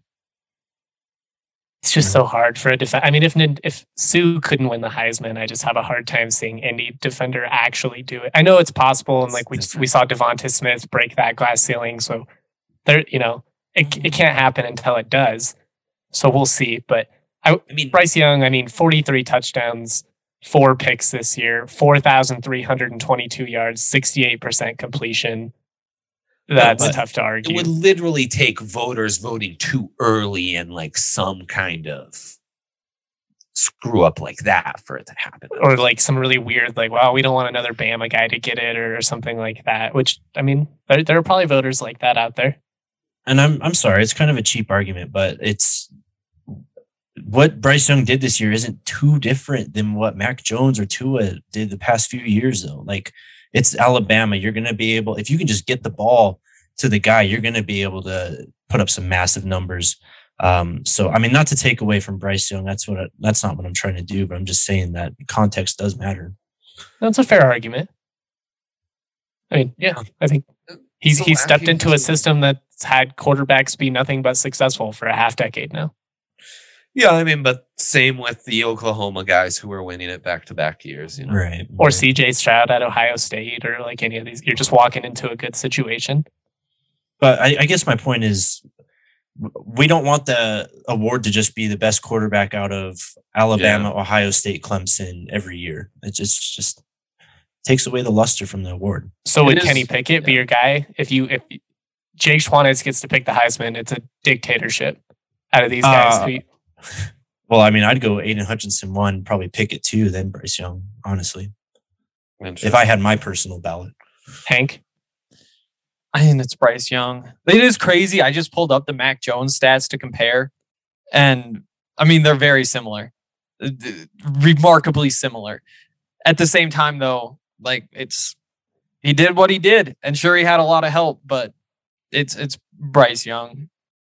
It's just so hard for a defense. I mean, if if Sue couldn't win the Heisman, I just have a hard time seeing any defender actually do it. I know it's possible, and like we we saw Devonta Smith break that glass ceiling. So there, you know, it it can't happen until it does. So we'll see. But I, I mean, Bryce Young. I mean, forty-three touchdowns, four picks this year, four thousand three hundred twenty-two yards, sixty-eight percent completion. That's but tough to argue. It would literally take voters voting too early and like some kind of screw up like that for it to happen. Or like some really weird, like, well, we don't want another Bama guy to get it or something like that. Which, I mean, there, there are probably voters like that out there. And I'm I'm sorry, it's kind of a cheap argument, but it's what Bryce Young did this year isn't too different than what Mac Jones or Tua did the past few years, though. Like, it's Alabama. You're going to be able, if you can just get the ball to the guy, you're going to be able to put up some massive numbers. Um, so, I mean, not to take away from Bryce Young, that's what I, that's not what I'm trying to do, but I'm just saying that context does matter. That's a fair argument. I mean, yeah, I think he's So he's stepped into a to- system that's had quarterbacks be nothing but successful for a half decade now. Yeah, I mean, but same with the Oklahoma guys who were winning it back to back years, you know. Right. Or right. C J Stroud at Ohio State, or like any of these. You're just walking into a good situation. But I, I guess my point is, we don't want the award to just be the best quarterback out of Alabama, Yeah. Ohio State, Clemson every year. It just just takes away the luster from the award. So It would is- Kenny Pickett be yeah. your guy? If you if Jake Schwanitz gets to pick the Heisman, it's a dictatorship out of these guys. Uh, who, Well, I mean, I'd go Aiden Hutchinson one, probably Pickett two, then Bryce Young, honestly, if I had my personal ballot. Hank, I think it's Bryce Young. It is crazy. I just pulled up the Mac Jones stats to compare. And I mean, they're very similar. Uh, Remarkably similar. At the same time, though, like it's he did what he did. And sure, he had a lot of help, but it's it's Bryce Young.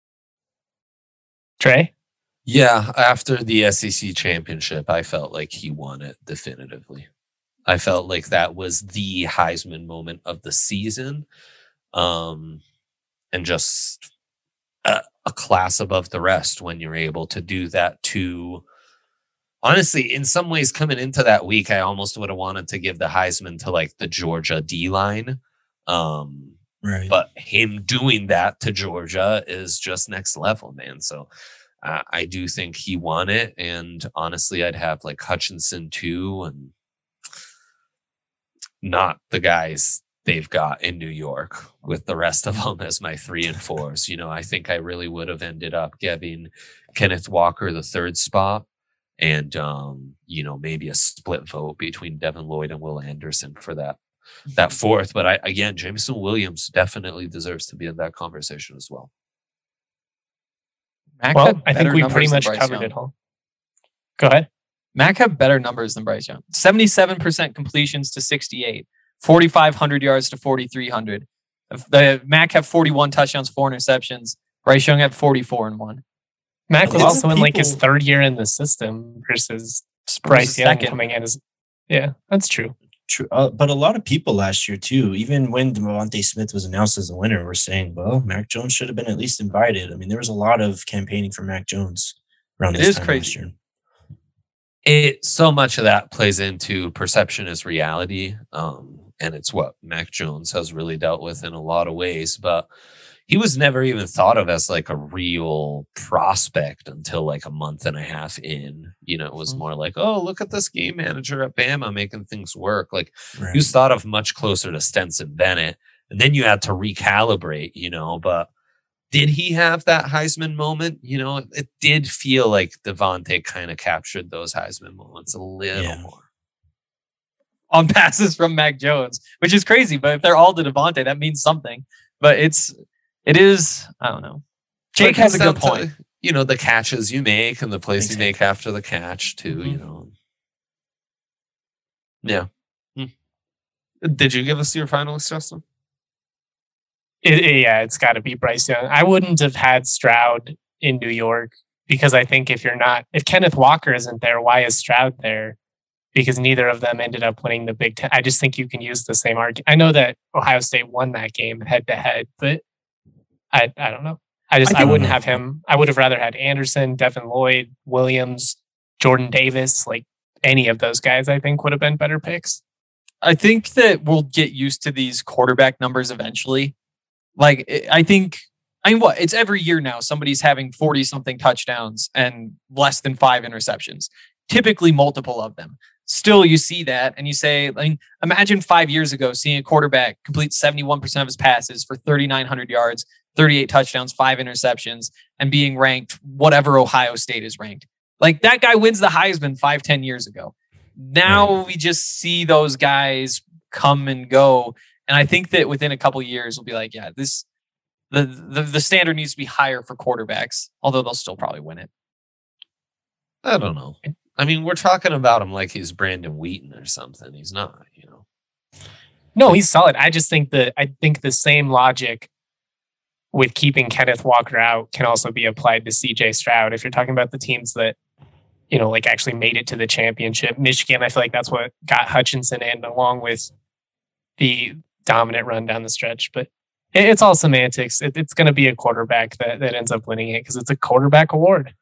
Trey, Yeah, after the S E C championship, I felt like he won it definitively. I felt like that was the Heisman moment of the season. Um, and just a, a class above the rest when you're able to do that to, honestly, in some ways coming into that week, I almost would have wanted to give the Heisman to like the Georgia D-line. Um, Right. but him doing that to Georgia is just next level, man. So uh, I do think he won it. And honestly, I'd have like Hutchinson too, and not the guys they've got in New York with the rest of them as my three and fours. You know, I think I really would have ended up giving Kenneth Walker the third spot and, um, you know, maybe a split vote between Devin Lloyd and Will Anderson for that. That fourth, but I again, Jameson Williams definitely deserves to be in that conversation as well. Mac well, had I think better we numbers pretty than much Bryce covered Young. it all. Go ahead. Mac had better numbers than Bryce Young. seventy-seven percent completions to sixty-eight, forty-five hundred yards to forty-three hundred. The Mac had forty-one touchdowns, four interceptions. Bryce Young had forty-four and one. Mac was Well, also in like his people- third year in the system versus Bryce Young second. coming in as. Yeah, that's true. True. Uh, but a lot of people last year, too, even when Devontae Smith was announced as the winner, were saying, well, Mac Jones should have been at least invited. I mean, there was a lot of campaigning for Mac Jones around It this is time crazy. last year. It so much of that plays into perception is reality. Um, and it's what Mac Jones has really dealt with in a lot of ways. But he was never even thought of as like a real prospect until like a month and a half in. You know, it was more like, oh, look at this game manager at Bama making things work. Like Right. he was thought of much closer to Stenson Bennett. And then you had to recalibrate, you know, but did he have that Heisman moment? You know, it, it did feel like Devontae kind of captured those Heisman moments a little Yeah. more. On passes from Mac Jones, which is crazy. But if they're all to Devontae, that means something. But it's, it is, I don't know. Jake But it has a comes good down point. to, you know, the catches you make and the plays Exactly. you make after the catch too, Mhm. you know. Yeah. Hmm. Did you give us your finalist, Justin? It, it- yeah, it's got to be Bryce Young. I wouldn't have had Stroud in New York because I think if you're not, if Kenneth Walker isn't there, why is Stroud there? Because neither of them ended up winning the Big Ten. I just think you can use the same argument. I know that Ohio State won that game head to head, but I I don't know. I just I I, don't wouldn't know. have him. I would have rather had Anderson, Devin Lloyd, Williams, Jordan Davis, like any of those guys. I think would have been better picks. I think that we'll get used to these quarterback numbers eventually. Like, I- I think, I mean, what? It's every year now. Somebody's having forty something touchdowns and less than five interceptions, typically multiple of them. Still, you see that and you say, I mean, imagine five years ago seeing a quarterback complete seventy-one percent of his passes for thirty-nine hundred yards, thirty-eight touchdowns, five interceptions, and being ranked whatever Ohio State is ranked. Like, that guy wins the Heisman five, ten years ago. Now we just see those guys come and go. And I think that within a couple of years, we'll be like, yeah, this the, the the standard needs to be higher for quarterbacks, although they'll still probably win it. I don't know. I mean, we're talking about him like he's Brandon Wheaton or something. He's not, you know. No, he's solid. I just think that I think the same logic with keeping Kenneth Walker out can also be applied to C J Stroud. If you're talking about the teams that, you know, like actually made it to the championship, Michigan, I feel like that's what got Hutchinson in, along with the dominant run down the stretch. But it- it's all semantics. It, it's going to be a quarterback that, that ends up winning it because it's a quarterback award.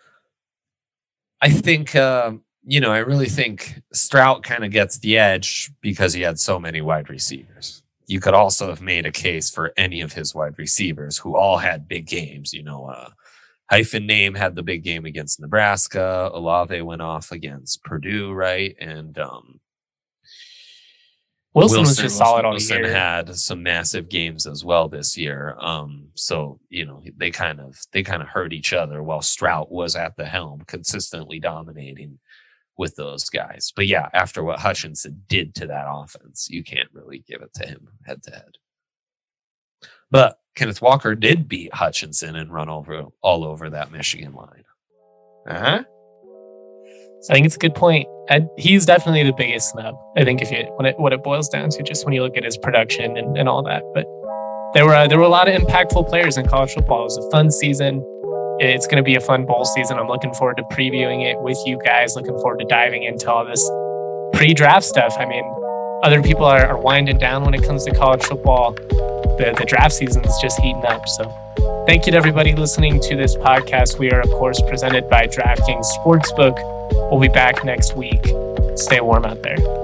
I think, uh, you know, I really think Stroud kind of gets the edge because he had so many wide receivers. You could also have made a case for any of his wide receivers who all had big games. You know, uh, Hyphen Name had the big game against Nebraska. Olave went off against Purdue, right? And um, Wilson, was just solid all Wilson year. had some massive games as well this year. Um, so you know they kind of they kind of hurt each other while Stroud was at the helm, consistently dominating with those guys. But yeah, after what Hutchinson did to that offense, you can't really give it to him head to head. But Kenneth Walker did beat Hutchinson and run over all over that Michigan line. Uh huh. So I think it's a good point. And he's definitely the biggest snub. I think if you when it what it boils down to, just when you look at his production and, and all that. But there were uh, there were a lot of impactful players in college football. It was a fun season. It's going to be a fun bowl season. I'm looking forward to previewing it with you guys. Looking forward to diving into all this pre-draft stuff. I mean, other people are, are winding down when it comes to college football. The the draft season is just heating up. So thank you to everybody listening to this podcast. We are, of course, presented by DraftKings Sportsbook. We'll be back next week. Stay warm out there.